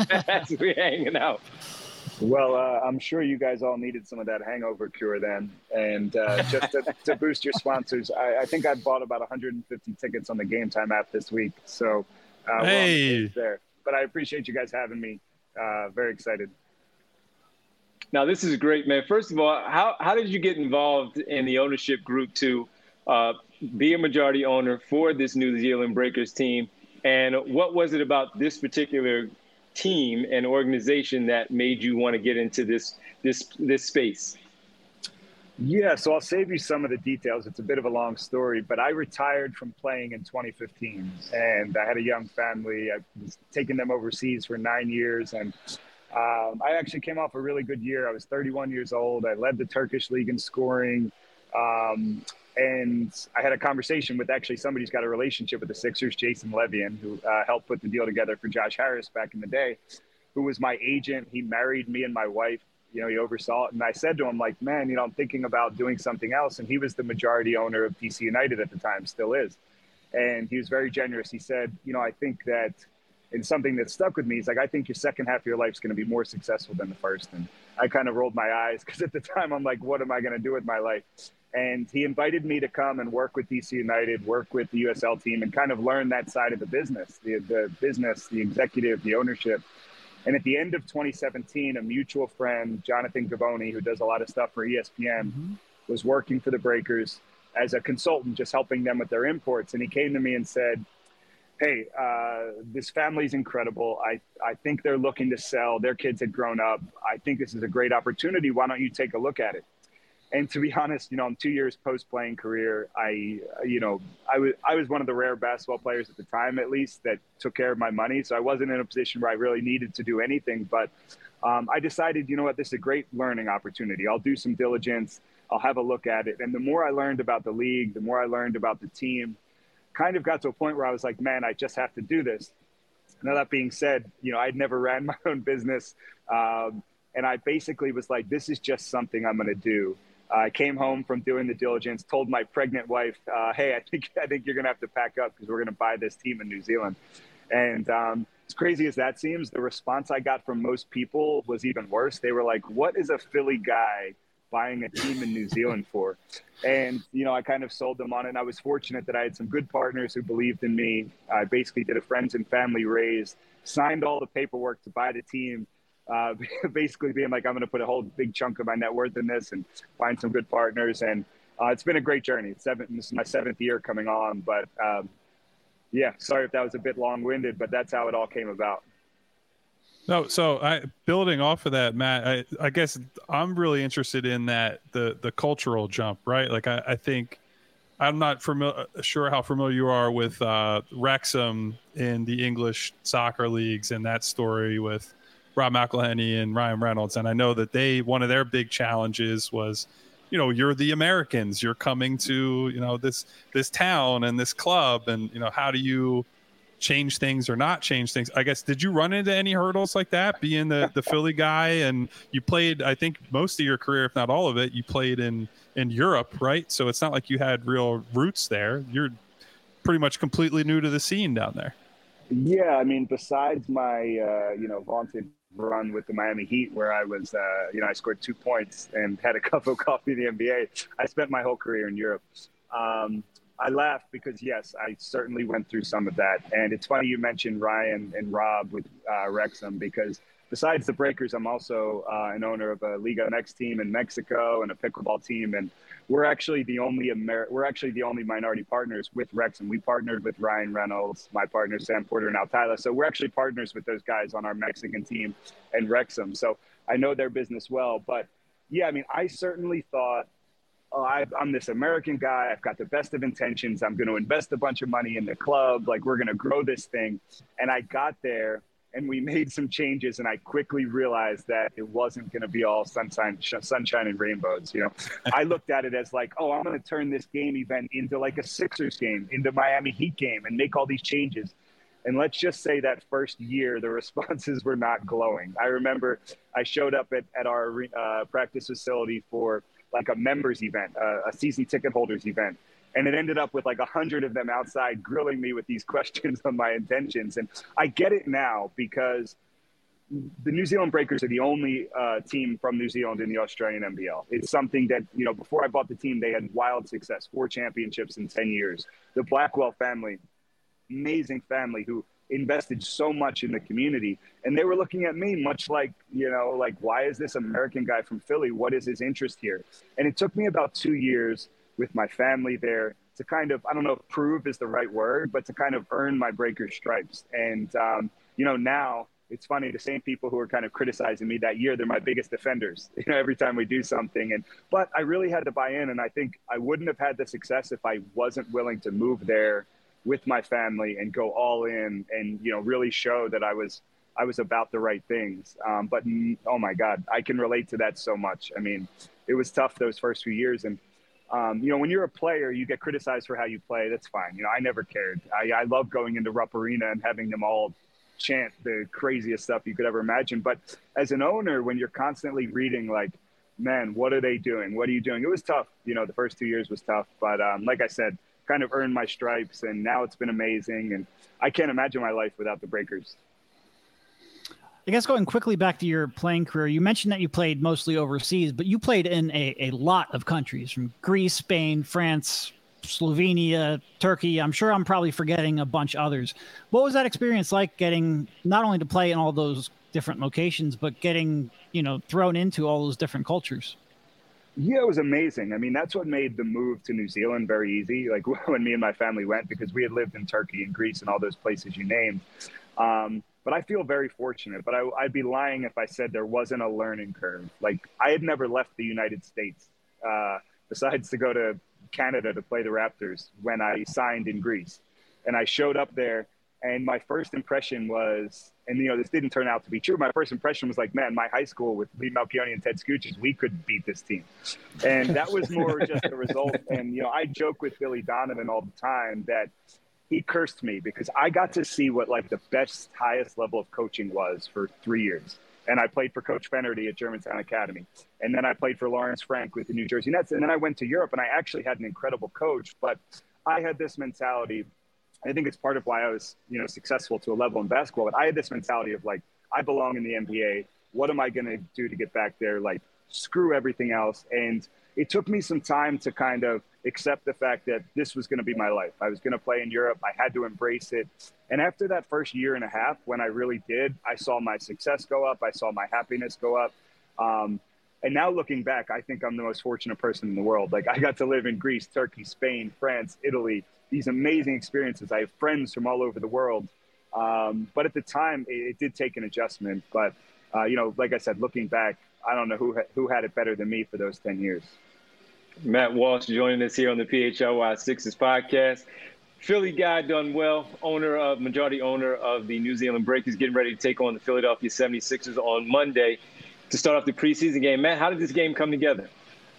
as we're hanging out. Well, uh, I'm sure you guys all needed some of that hangover cure then. And uh, just to, to boost your sponsors, I, I think I bought about one hundred fifty tickets on the Game Time app this week. So uh, hey. well, there. But I appreciate you guys having me. Uh, very excited. Now, this is great, man. First of all, how, how did you get involved in the ownership group to uh, be a majority owner for this New Zealand Breakers team? And what was it about this particular team and organization that made you want to get into this this this space? Yeah, so I'll save you some of the details. It's a bit of a long story, but I retired from playing in twenty fifteen, and I had a young family. I was taking them overseas for nine years, and Um, I actually came off a really good year. I was thirty-one years old. I led the Turkish league in scoring. Um, and I had a conversation with actually somebody who's got a relationship with the Sixers, Jason Levian, who uh, helped put the deal together for Josh Harris back in the day, who was my agent. He married me and my wife. You know, he oversaw it. And I said to him, like, man, you know, I'm thinking about doing something else. And he was the majority owner of D C United at the time, still is. And he was very generous. He said, you know, I think that, and something that stuck with me is like, I think your second half of your life is going to be more successful than the first. And I kind of rolled my eyes because at the time I'm like, what am I going to do with my life? And he invited me to come and work with D C United, work with the U S L team, and kind of learn that side of the business, the, the business, the executive, the ownership. And at the end of twenty seventeen, a mutual friend, Jonathan Gavoni, who does a lot of stuff for E S P N, mm-hmm. was working for the Breakers as a consultant, just helping them with their imports. And he came to me and said, hey, uh, this family's incredible. I, I think they're looking to sell. Their kids had grown up. I think this is a great opportunity. Why don't you take a look at it? And to be honest, you know, I'm two years post-playing career. I, you know, I was I was one of the rare basketball players at the time, at least, that took care of my money. So I wasn't in a position where I really needed to do anything. But um, I decided, you know what, this is a great learning opportunity. I'll do some diligence. I'll have a look at it. And the more I learned about the league, the more I learned about the team, kind of got to a point where I was like, man, I just have to do this. Now, that being said, you know, I'd never ran my own business. Um, and I basically was like, this is just something I'm going to do. I came home from doing the diligence, told my pregnant wife, uh, hey, I think I think you're going to have to pack up because we're going to buy this team in New Zealand. And um, as crazy as that seems, the response I got from most people was even worse. They were like, what is a Philly guy buying a team in New Zealand for? And, you know, I kind of sold them on it. And I was fortunate that I had some good partners who believed in me. I basically did a friends and family raise, signed all the paperwork to buy the team. Uh, basically being like, I'm going to put a whole big chunk of my net worth in this and find some good partners. And uh, it's been a great journey. It's seven, this is my seventh year coming on. But um, yeah, sorry if that was a bit long-winded, but that's how it all came about. No, so I building off of that, Matt, I, I guess I'm really interested in that, the the cultural jump, right? Like I, I think I'm not familiar, sure how familiar you are with uh, Wrexham in the English soccer leagues and that story with Rob McElhenney and Ryan Reynolds. And I know that they, one of their big challenges was, you know, you're the Americans, you're coming to, you know, this, this town and this club. And, you know, how do you change things or not change things? I guess, did you run into any hurdles like that being the, the Philly guy? And you played, I think most of your career, if not all of it, you played in, in Europe, right? So it's not like you had real roots there. You're pretty much completely new to the scene down there. Yeah. I mean, besides my, uh, you know, vaunted run with the Miami Heat where I was, uh, you know, I scored two points and had a cup of coffee in the N B A. I spent my whole career in Europe. Um, I laugh because, yes, I certainly went through some of that. And it's funny you mentioned Ryan and Rob with uh, Wrexham, because besides the Breakers, I'm also uh, an owner of a Liga M X team in Mexico and a pickleball team. And we're actually the only Amer- we're actually the only minority partners with Wrexham. We partnered with Ryan Reynolds, my partner Sam Porter, and Al Tyler. So we're actually partners with those guys on our Mexican team and Wrexham. So I know their business well. But yeah, I mean, I certainly thought, oh, I, I'm this American guy. I've got the best of intentions. I'm going to invest a bunch of money in the club. Like, we're going to grow this thing. And I got there and we made some changes, and I quickly realized that it wasn't going to be all sunshine, sunshine and rainbows. You know, I looked at it as like, oh, I'm going to turn this game event into like a Sixers game, into Miami Heat game, and make all these changes. And let's just say that first year, the responses were not glowing. I remember I showed up at, at our uh, practice facility for like a members event, uh, a season ticket holders event. And it ended up with like a hundred of them outside grilling me with these questions on my intentions. And I get it now, because the New Zealand Breakers are the only uh, team from New Zealand in the Australian N B L. It's something that, you know, before I bought the team, they had wild success, four championships in ten years. The Blackwell family, amazing family who invested so much in the community. And they were looking at me much like, you know, like, why is this American guy from Philly? What is his interest here? And it took me about two years with my family there to kind of, I don't know if prove is the right word, but to kind of earn my Breaker stripes. And, um, you know, now it's funny, the same people who were kind of criticizing me that year, they're my biggest defenders, you know, every time we do something. And, but I really had to buy in. And I think I wouldn't have had the success if I wasn't willing to move there with my family and go all in and, you know, really show that I was, I was about the right things. Um, but, oh my God, I can relate to that so much. I mean, it was tough those first few years. And, Um, you know, when you're a player, you get criticized for how you play. That's fine. You know, I never cared. I, I love going into Rupp Arena and having them all chant the craziest stuff you could ever imagine. But as an owner, when you're constantly reading like, man, what are they doing? What are you doing? It was tough. You know, the first two years was tough. But um, like I said, kind of earned my stripes, and now it's been amazing. And I can't imagine my life without the Breakers. I guess going quickly back to your playing career, you mentioned that you played mostly overseas, but you played in a, a lot of countries, from Greece, Spain, France, Slovenia, Turkey. I'm sure I'm probably forgetting a bunch others. What was that experience like, getting not only to play in all those different locations, but getting, you know, thrown into all those different cultures. Yeah, it was amazing. I mean, that's what made the move to New Zealand very easy. Like when me and my family went, because we had lived in Turkey and Greece and all those places you named. Um, but I feel very fortunate. But I, I'd be lying if I said there wasn't a learning curve. Like I had never left the United States, uh, besides to go to Canada to play the Raptors when I signed in Greece. And I showed up there, and my first impression was, and you know, this didn't turn out to be true. My first impression was like, man, my high school with Lee Malchione and Ted Scooches, we could beat this team. And that was more just a result. And, you know, I joke with Billy Donovan all the time that he cursed me because I got to see what like the best, highest level of coaching was for three years. And I played for Coach Fenerty at Germantown Academy. And then I played for Lawrence Frank with the New Jersey Nets. And then I went to Europe, and I actually had an incredible coach. But I had this mentality. I think it's part of why I was, you know, successful to a level in basketball. But I had this mentality of like, I belong in the N B A. What am I going to do to get back there? Like, screw everything else. And it took me some time to kind of accept the fact that this was going to be my life. I was going to play in Europe. I had to embrace it. And after that first year and a half, when I really did, I saw my success go up. I saw my happiness go up. Um, and now looking back, I think I'm the most fortunate person in the world. Like I got to live in Greece, Turkey, Spain, France, Italy, these amazing experiences. I have friends from all over the world. Um, but at the time, it, it did take an adjustment. But, uh, you know, like I said, looking back, I don't know who ha- who had it better than me for those ten years. Matt Walsh joining us here on the P H L Y Sixers podcast. Philly guy done well, owner of, majority owner of the New Zealand Breakers, getting ready to take on the Philadelphia seventy-sixers on Monday to start off the preseason game. Matt, how did this game come together?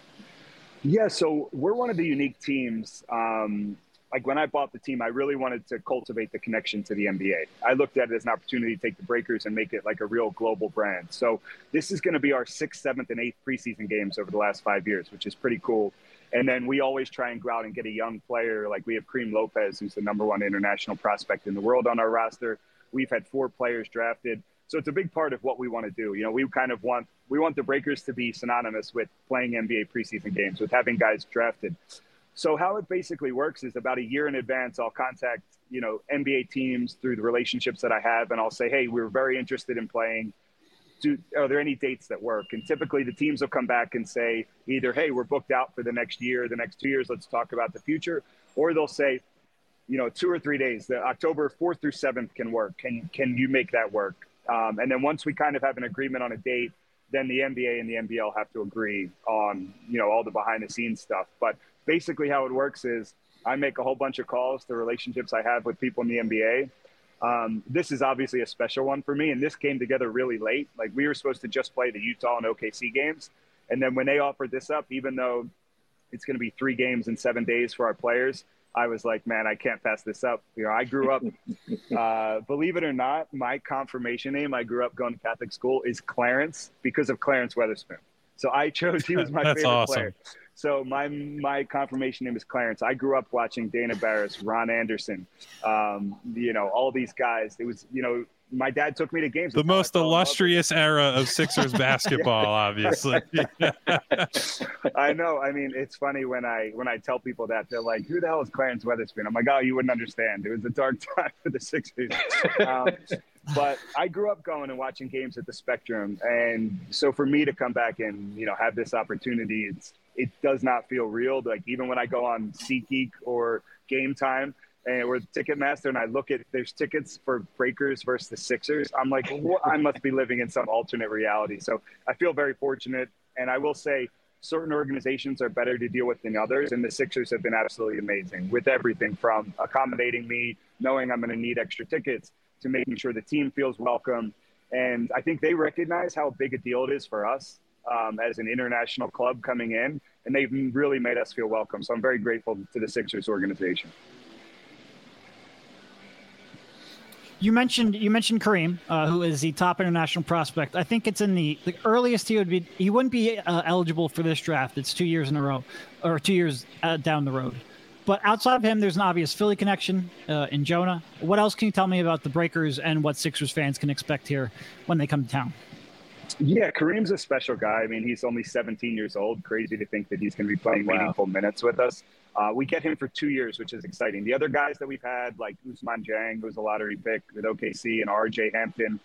Yeah, so we're one of the unique teams. Um, like when I bought the team, I really wanted to cultivate the connection to the N B A. I looked at it as an opportunity to take the Breakers and make it like a real global brand. So this is going to be our sixth, seventh, and eighth preseason games over the last five years, which is pretty cool. And then we always try and go out and get a young player. Like we have Kareem Lopez, who's the number one international prospect in the world on our roster. We've had four players drafted. So it's a big part of what we want to do. You know, we kind of want, we want the Breakers to be synonymous with playing N B A preseason games, with having guys drafted. So how it basically works is about a year in advance, I'll contact, you know, N B A teams through the relationships that I have. And I'll say, hey, we're very interested in playing. Do, are there any dates that work? And typically the teams will come back and say either, hey, we're booked out for the next year, the next two years, let's talk about the future. Or they'll say, you know, two or three days, the October fourth through seventh can work. Can, can you make that work? Um, and then once we kind of have an agreement on a date, then the N B A and the N B L have to agree on, you know, all the behind the scenes stuff. But basically how it works is I make a whole bunch of calls to relationships I have with people in the N B A. Um, this is obviously a special one for me, and this came together really late. Like we were supposed to just play the Utah and O K C games. And then when they offered this up, even though it's going to be three games in seven days for our players, I was like, man, I can't pass this up. You know, I grew up, uh, believe it or not, my confirmation name, I grew up going to Catholic school, is Clarence because of Clarence Weatherspoon. So I chose, he was my That's favorite awesome. player. So my my confirmation name is Clarence. I grew up watching Dana Barris, Ron Anderson, um, you know, all these guys. It was, you know, my dad took me to games. The most illustrious era of Sixers basketball, obviously. I know. I mean, it's funny when I when I tell people that, they're like, who the hell is Clarence Weatherspoon? I'm like, oh, you wouldn't understand. It was a dark time for the Sixers. Um, but I grew up going and watching games at the Spectrum. And so for me to come back and, you know, have this opportunity, it's, it does not feel real. Like even when I go on SeatGeek or Game Time, and we're Ticketmaster, and I look at there's tickets for Breakers versus the Sixers, I'm like, well, I must be living in some alternate reality. So I feel very fortunate. And I will say certain organizations are better to deal with than others. And the Sixers have been absolutely amazing with everything from accommodating me, knowing I'm going to need extra tickets, to making sure the team feels welcome. And I think they recognize how big a deal it is for us um, as an international club coming in. And they've really made us feel welcome. So I'm very grateful to the Sixers organization. You mentioned you mentioned Kareem, uh, who is the top international prospect. I think it's in the, the earliest he would be. He wouldn't be uh, eligible for this draft. It's two years in a row, or two years uh, down the road. But outside of him, there's an obvious Philly connection uh, in Jonah. What else can you tell me about the Breakers and what Sixers fans can expect here when they come to town? Yeah, Kareem's a special guy. I mean, he's only seventeen years old. Crazy to think that he's going to be playing wow. meaningful minutes with us. Uh, we get him for two years, which is exciting. The other guys that we've had, like Ousmane Dieng, who's a lottery pick with O K C, and R J Hampton,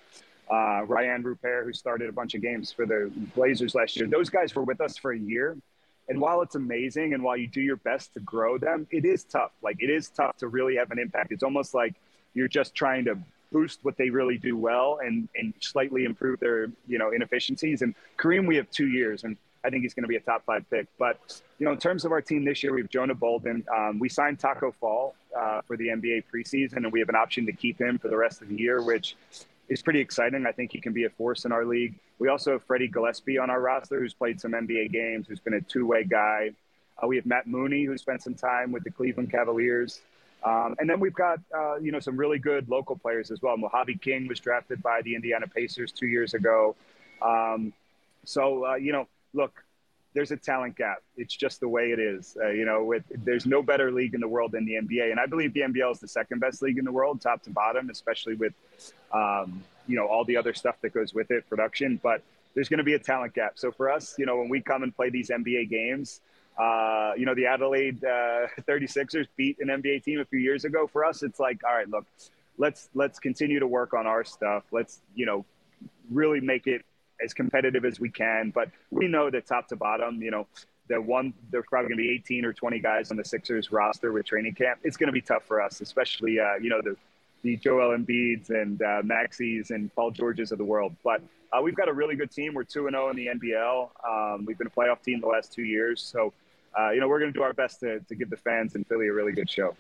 uh, Ryan Rupert, who started a bunch of games for the Blazers last year. Those guys were with us for a year. And while it's amazing and while you do your best to grow them, it is tough. Like, it is tough to really have an impact. It's almost like you're just trying to boost what they really do well and, and slightly improve their, you know, inefficiencies. And Kareem, we have two years, and I think he's going to be a top five pick. But, you know, in terms of our team this year, we have Jonah Bolden. Um, we signed Taco Fall uh, for the N B A preseason, and we have an option to keep him for the rest of the year, which is pretty exciting. I think he can be a force in our league. We also have Freddie Gillespie on our roster, who's played some N B A games, who's been a two-way guy. Uh, we have Matt Mooney, who spent some time with the Cleveland Cavaliers. Um, and then we've got, uh, you know, some really good local players as well. Mojave King was drafted by the Indiana Pacers two years ago. Um, so, uh, you know, look, there's a talent gap. It's just the way it is. Uh, you know, with, there's no better league in the world than the N B A. And I believe the N B L is the second best league in the world, top to bottom, especially with, um, you know, all the other stuff that goes with it, production. But there's going to be a talent gap. So for us, you know, when we come and play these N B A games, Uh, you know, the Adelaide uh, thirty-sixers beat an N B A team a few years ago. For us, it's like, all right, look, let's let's continue to work on our stuff. Let's, you know, really make it as competitive as we can. But we know that top to bottom, you know, the one there's probably going to be eighteen or twenty guys on the Sixers roster with training camp. It's going to be tough for us, especially, uh, you know, the the Joel Embiids and uh, Maxis and Paul Georges of the world. But uh, we've got a really good team. We're two and oh in the N B L. Um, we've been a playoff team the last two years. So, Uh, you know, we're going to do our best to, to give the fans in Philly a really good show.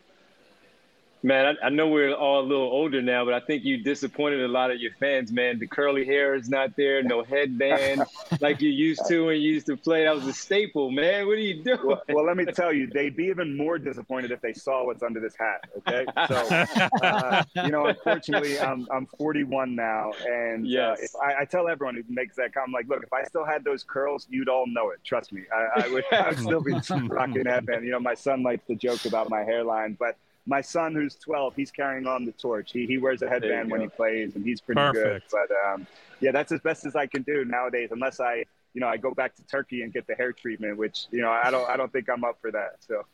Man, I, I know we're all a little older now, but I think you disappointed a lot of your fans, man. The curly hair is not there, no headband like you used to when you used to play. That was a staple, man. What are you doing? Well, well, let me tell you, they'd be even more disappointed if they saw what's under this hat, okay? So, uh, you know, unfortunately, I'm I'm forty-one now, and yes. uh, if I, I tell everyone who makes that comment, like, look, if I still had those curls, you'd all know it. Trust me. I, I, would, I would still be rocking that band. You know, my son likes to joke about my hairline, but my son, who's twelve, he's carrying on the torch. He he wears a headband when he plays, and he's pretty Perfect. good. But um, yeah, that's as best as I can do nowadays, unless I, you know, I go back to Turkey and get the hair treatment, which, you know, I don't I don't think I'm up for that. So,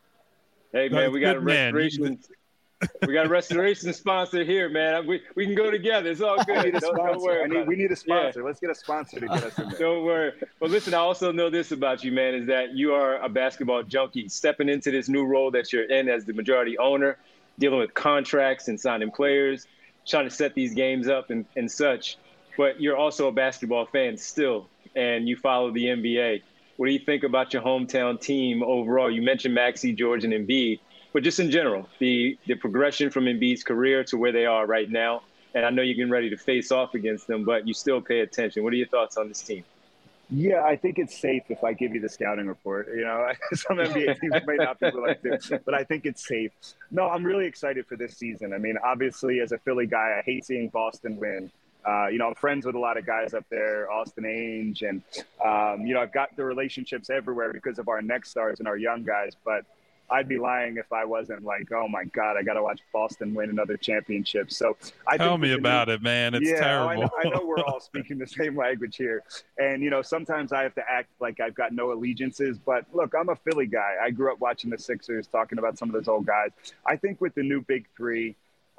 hey man, no, we got a good, man. restoration. We got a restoration sponsor here, man. We we can go together. It's all good. I need a Don't, sponsor. don't worry I need, about we it. need a sponsor. Yeah. Let's get a sponsor to get us in there. Don't worry. But listen, I also know this about you, man, is that you are a basketball junkie. Stepping into this new role that you're in as the majority owner, dealing with contracts and signing players, trying to set these games up and, and such. But you're also a basketball fan still, and you follow the N B A. What do you think about your hometown team overall? You mentioned Maxey, George, and Embiid, but just in general, the, the progression from Embiid's career to where they are right now. And I know you're getting ready to face off against them, but you still pay attention. What are your thoughts on this team? Yeah, I think it's safe if I give you the scouting report. You know, some N B A teams may not be willing to, but I think it's safe. No, I'm really excited for this season. I mean, obviously, as a Philly guy, I hate seeing Boston win. Uh, you know, I'm friends with a lot of guys up there, Austin Ainge, and, um, you know, I've got the relationships everywhere because of our next stars and our young guys. But I'd be lying if I wasn't like, oh my God, I got to watch Boston win another championship. So I tell think me about new, it, man. It's yeah, terrible. I know, I know we're all speaking the same language here. And, you know, sometimes I have to act like I've got no allegiances. But look, I'm a Philly guy. I grew up watching the Sixers, talking about some of those old guys. I think with the new big three,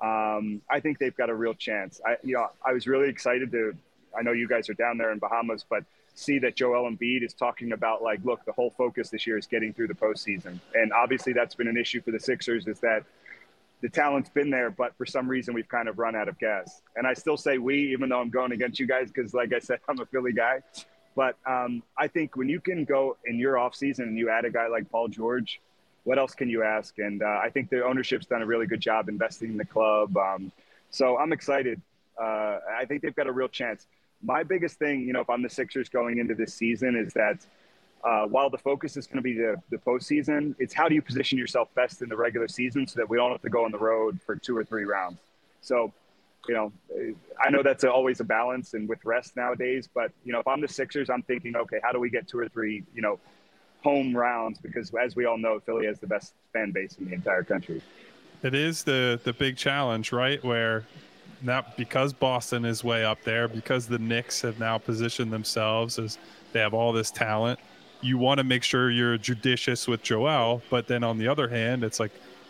um, I think they've got a real chance. I, you know, I was really excited to, I know you guys are down there in Bahamas, but see that Joel Embiid is talking about, like, look, the whole focus this year is getting through the postseason. And obviously that's been an issue for the Sixers, is that the talent's been there, but for some reason we've kind of run out of gas. And I still say we, even though I'm going against you guys, because like I said, I'm a Philly guy. But um, I think when you can go in your offseason and you add a guy like Paul George, what else can you ask? And uh, I think the ownership's done a really good job investing in the club. Um, so I'm excited. Uh, I think they've got a real chance. My biggest thing, you know, if I'm the Sixers going into this season, is that uh, while the focus is going to be the, the postseason, it's how do you position yourself best in the regular season so that we don't have to go on the road for two or three rounds. So, you know, I know that's a, always a balance and with rest nowadays, but, you know, if I'm the Sixers, I'm thinking, okay, how do we get two or three, you know, home rounds? Because as we all know, Philly has the best fan base in the entire country. It is the the big challenge, right? Where now, because Boston is way up there, because the Knicks have now positioned themselves as they have all this talent, you want to make sure you're judicious with Joel. But then on the other hand, it's like,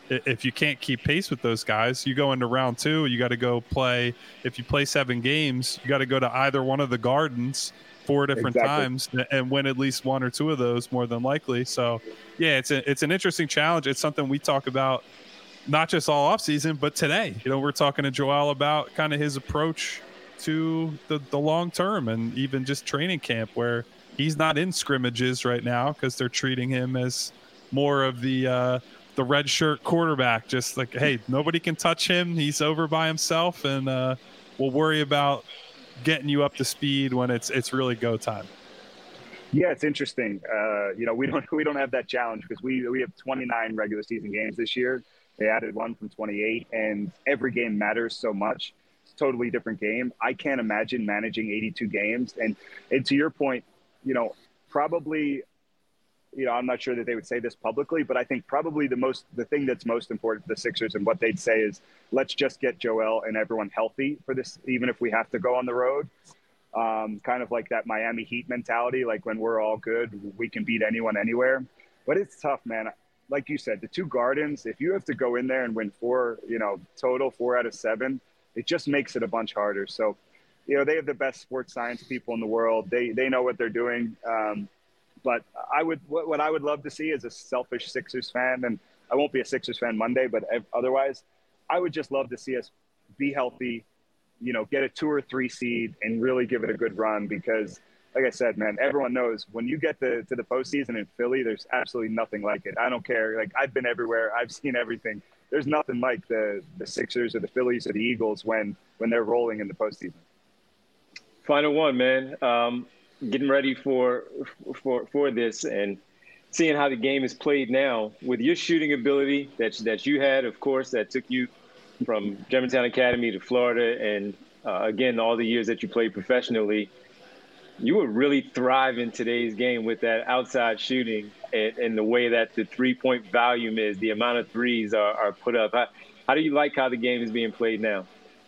if you can't keep pace with those guys, you go into round two, you got to go play. If you play seven games, you got to go to either one of the Gardens four different exactly. times and win at least one or two of those more than likely. So yeah, it's a, it's an interesting challenge. It's something we talk about not just all off season, but today, you know, we're talking to Joel about kind of his approach to the, the long term and even just training camp, where he's not in scrimmages right now because they're treating him as more of the, uh, the red shirt quarterback, just like, hey, nobody can touch him. He's over by himself, and uh, we'll worry about getting you up to speed when it's it's really go time. Yeah, it's interesting. Uh, you know, we don't we don't have that challenge because we we have twenty-nine regular season games this year. They added one from twenty-eight, and every game matters so much. It's a totally different game. I can't imagine managing eighty-two games. And and to your point, you know, probably. You know, I'm not sure that they would say this publicly, but I think probably the most, the thing that's most important to the Sixers and what they'd say is, let's just get Joel and everyone healthy for this, even if we have to go on the road. Um, kind of like that Miami Heat mentality, like when we're all good, we can beat anyone anywhere. But it's tough, man. Like you said, the two Gardens, if you have to go in there and win four, you know, total four out of seven, it just makes it a bunch harder. So, you know, they have the best sports science people in the world. They they know what they're doing. Um, But I would, what I would love to see as a selfish Sixers fan, and I won't be a Sixers fan Monday, but otherwise, I would just love to see us be healthy, you know, get a two or three seed and really give it a good run. Because, like I said, man, everyone knows when you get to, to the postseason in Philly, there's absolutely nothing like it. I don't care. Like, I've been everywhere. I've seen everything. There's nothing like the, the Sixers or the Phillies or the Eagles when, when they're rolling in the postseason. Final one, man. Um, getting ready for for for this and seeing how the game is played now with your shooting ability that that you had, of course, that took you from Germantown Academy to Florida, and uh, again all the years that you played professionally, you would really thrive in today's game with that outside shooting and, and the way that the three-point volume is, the amount of threes are, are put up. How, how do you like how the game is being played now?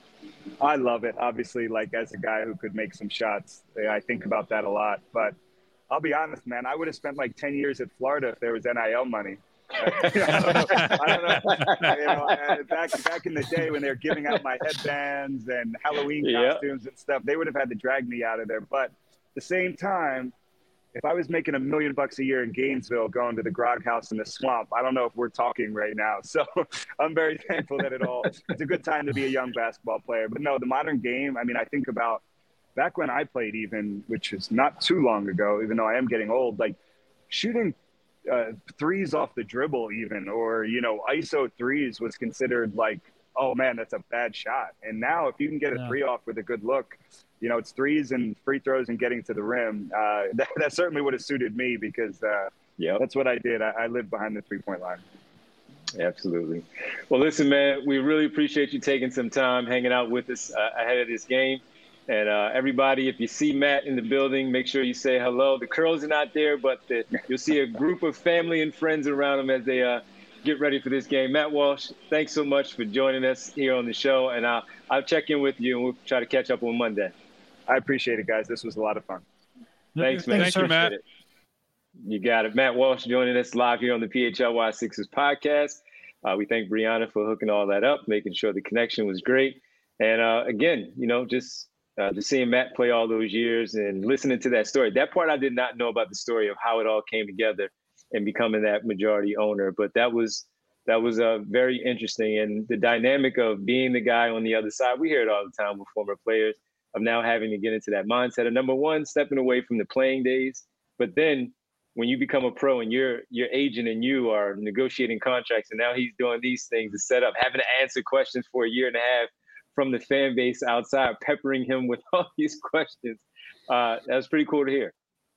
I love it. Obviously, like as a guy who could make some shots, I think about that a lot. But I'll be honest, man, I would have spent like ten years at Florida if there was N I L money. I don't know. I don't know. You know, back back in the day when they were giving out my headbands and Halloween costumes yep. and stuff, they would have had to drag me out of there. But at the same time, if I was making a million bucks a year in Gainesville going to the Grog House in the swamp, I don't know if we're talking right now. So I'm very thankful that it all, it's a good time to be a young basketball player. But no, the modern game, I mean, I think about back when I played even, which is not too long ago, even though I am getting old, like shooting uh, threes off the dribble even, or, you know, I S O threes was considered like, oh man, that's a bad shot. And now if you can get a yeah. three off with a good look, you know, it's threes and free throws and getting to the rim. Uh, that, that certainly would have suited me because uh, yep. that's what I did. I, I lived behind the three-point line. Absolutely. Well, listen, man, we really appreciate you taking some time hanging out with us uh, ahead of this game. And uh, everybody, if you see Matt in the building, make sure you say hello. The curls are not there, but the, you'll see a group of family and friends around them as they uh, get ready for this game. Matt Walsh, thanks so much for joining us here on the show. And I'll, I'll check in with you, and we'll try to catch up on Monday. I appreciate it, guys. This was a lot of fun. Thanks, man. Thank you, Matt. It. You got it. Matt Walsh joining us live here on the P H L Y Sixers podcast. Uh, we thank Brianna for hooking all that up, making sure the connection was great. And uh, again, you know, just uh, just seeing Matt play all those years and listening to that story. That part I did not know about the story of how it all came together and becoming that majority owner. But that was that was uh, very interesting. And the dynamic of being the guy on the other side, we hear it all the time with former players, of now having to get into that mindset of, number one, stepping away from the playing days. But then when you become a pro and your your agent and you are negotiating contracts, and now he's doing these things to set up, having to answer questions for a year and a half from the fan base outside, peppering him with all these questions. Uh, that was pretty cool to hear.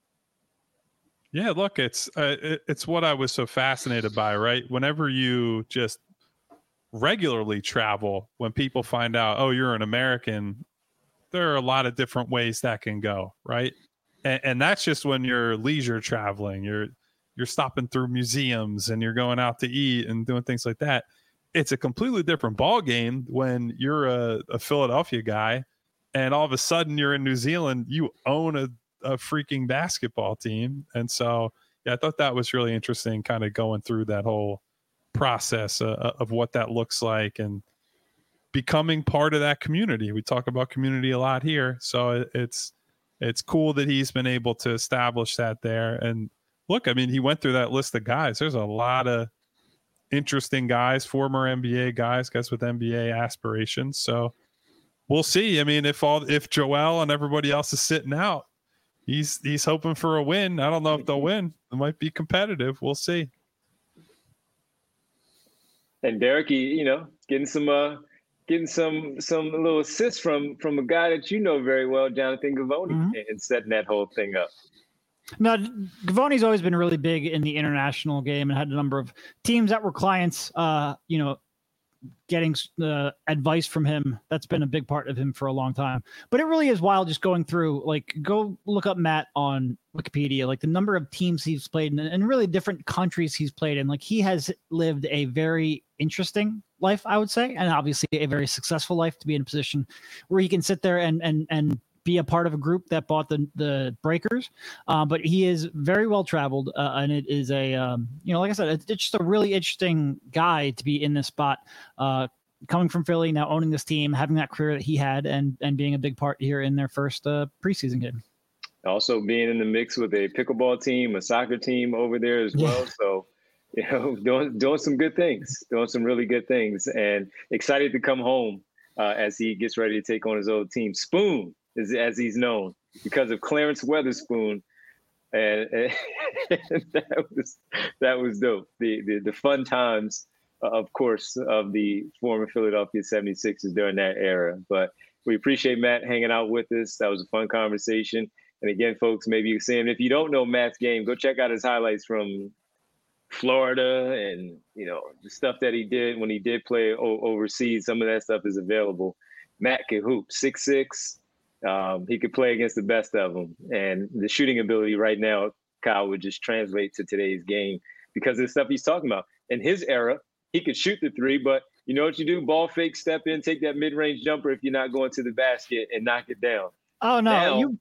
Yeah, look, it's uh, it, it's what I was so fascinated by, right? Whenever you just regularly travel, when people find out, oh, you're an American, there are a lot of different ways that can go, right? And, and that's just when you're leisure traveling. You're you're stopping through museums and you're going out to eat and doing things like that. It's a completely different ball game when you're a, a Philadelphia guy and all of a sudden you're in New Zealand. You own a, a freaking basketball team. And so, yeah, I thought that was really interesting, kind of going through that whole process uh, of what that looks like and becoming part of that community. We talk about community a lot here, so it, it's it's cool that he's been able to establish that there. And look, I mean, he went through that list of guys. There's a lot of interesting guys, former N B A guys, guys with N B A aspirations. So we'll see. I mean, if all if Joel and everybody else is sitting out, he's he's hoping for a win. I don't know if they'll win. It might be competitive. We'll see. And Derek, you know, getting some uh, getting some some little assists from from a guy that you know very well, Jonathan Givony, mm-hmm. and setting that whole thing up. No, Givony's always been really big in the international game and had a number of teams that were clients, uh, you know, getting uh, advice from him. That's been a big part of him for a long time. But it really is wild just going through, like, go look up Matt on Wikipedia, like the number of teams he's played in and really different countries he's played in. Like, he has lived a very interesting life, I would say, and obviously a very successful life to be in a position where he can sit there and and and be a part of a group that bought the the breakers. Uh, but he is very well traveled, uh, and it is a um, you know, like I said, it's, it's just a really interesting guy to be in this spot, uh, coming from Philly, now owning this team, having that career that he had, and and being a big part here in their first uh, preseason game. Also being in the mix with a pickleball team, a soccer team over there as well. Yeah. So, you know, doing doing some good things, doing some really good things, and excited to come home uh, as he gets ready to take on his old team. Spoon, As, as he's known, because of Clarence Weatherspoon, and, and that was that was dope. The, the the fun times, of course, of the former Philadelphia seventy-sixers during that era. But we appreciate Matt hanging out with us. That was a fun conversation. And again, folks, maybe you're saying, if you don't know Matt's game, go check out his highlights from Florida and, you know, the stuff that he did when he did play o- overseas. Some of that stuff is available. Matt can hoop, six six. Um, he could play against the best of them. And the shooting ability right now, Kyle, would just translate to today's game because of the stuff he's talking about. In his era, he could shoot the three, but you know what you do? Ball fake, step in, take that mid-range jumper if you're not going to the basket and knock it down. Oh, no. Now, you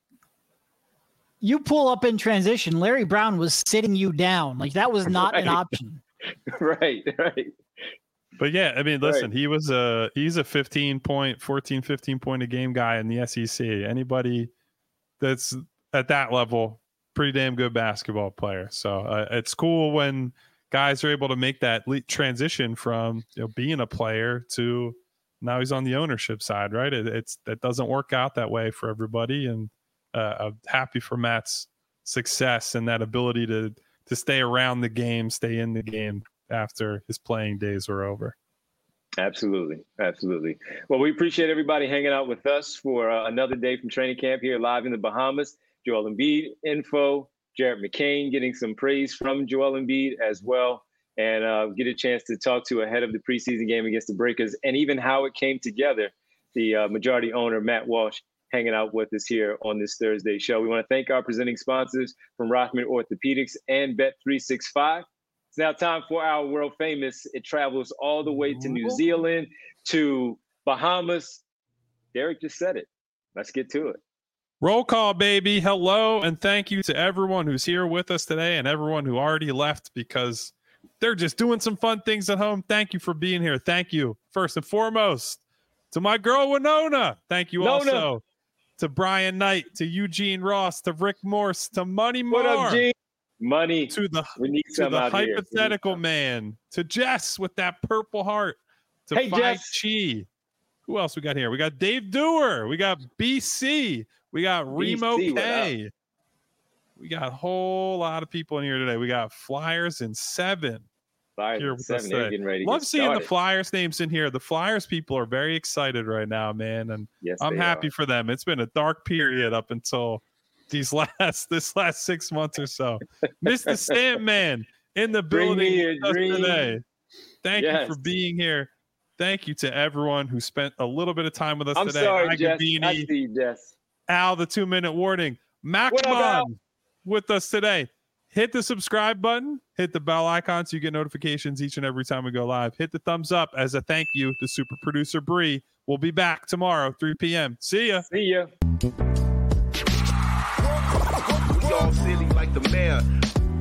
you pull up in transition. Larry Brown was sitting you down. Like, that was not right. an option. right, right. But yeah, I mean, listen, right. he was a he's a fifteen point, fourteen, fifteen point a game guy in the S E C. Anybody that's at that level, pretty damn good basketball player. So uh, it's cool when guys are able to make that le- transition from, you know, being a player to now he's on the ownership side, right? It, it's that doesn't work out that way for everybody, and uh, I'm happy for Matt's success and that ability to to stay around the game, stay in the game after his playing days were over. Absolutely. Absolutely. Well, we appreciate everybody hanging out with us for uh, another day from training camp here live in the Bahamas. Joel Embiid info, Jared McCain getting some praise from Joel Embiid as well, and uh, get a chance to talk to ahead of the preseason game against the Breakers and even how it came together. The uh, majority owner, Matt Walsh, hanging out with us here on this Thursday show. We want to thank our presenting sponsors from Rothman Orthopedics and Bet three sixty-five. It's now time for our world famous. It travels all the way to New Zealand, to Bahamas. Derek just said it. Let's get to it. Roll call, baby. Hello, and thank you to everyone who's here with us today and everyone who already left because they're just doing some fun things at home. Thank you for being here. Thank you, first and foremost, to my girl Winona. Thank you Nona. Also to Brian Knight, to Eugene Ross, to Rick Morse, to Money Moore. What up, Gene? Money to the, we need to some the out hypothetical here. man, to Jess with that purple heart, to hey, Phi Jess. Chi. Who else we got here? We got Dave Dewar. We got B C. We got Remo B C, K. We got a whole lot of people in here today. We got Flyers in seven. Flyers here in with seven. us They're today. getting ready to Love get seeing started. the Flyers names in here. The Flyers people are very excited right now, man. And Yes, I'm they happy are. for them. It's been a dark period up until these last this last six months or so. Mister Sandman in the Bring building me a with us dream. today. Thank Yes. you for being here. Thank you to everyone who spent a little bit of time with us I'm today. sorry, Jess. I Agabini, see you, Jess. Al, the two-minute warning. What up, Al? Macmon with us today. Hit the subscribe button. Hit the bell icon so you get notifications each and every time we go live. Hit the thumbs up as a thank you to super producer Bree. We'll be back tomorrow, three p.m. See ya. See ya. We all silly like the mayor.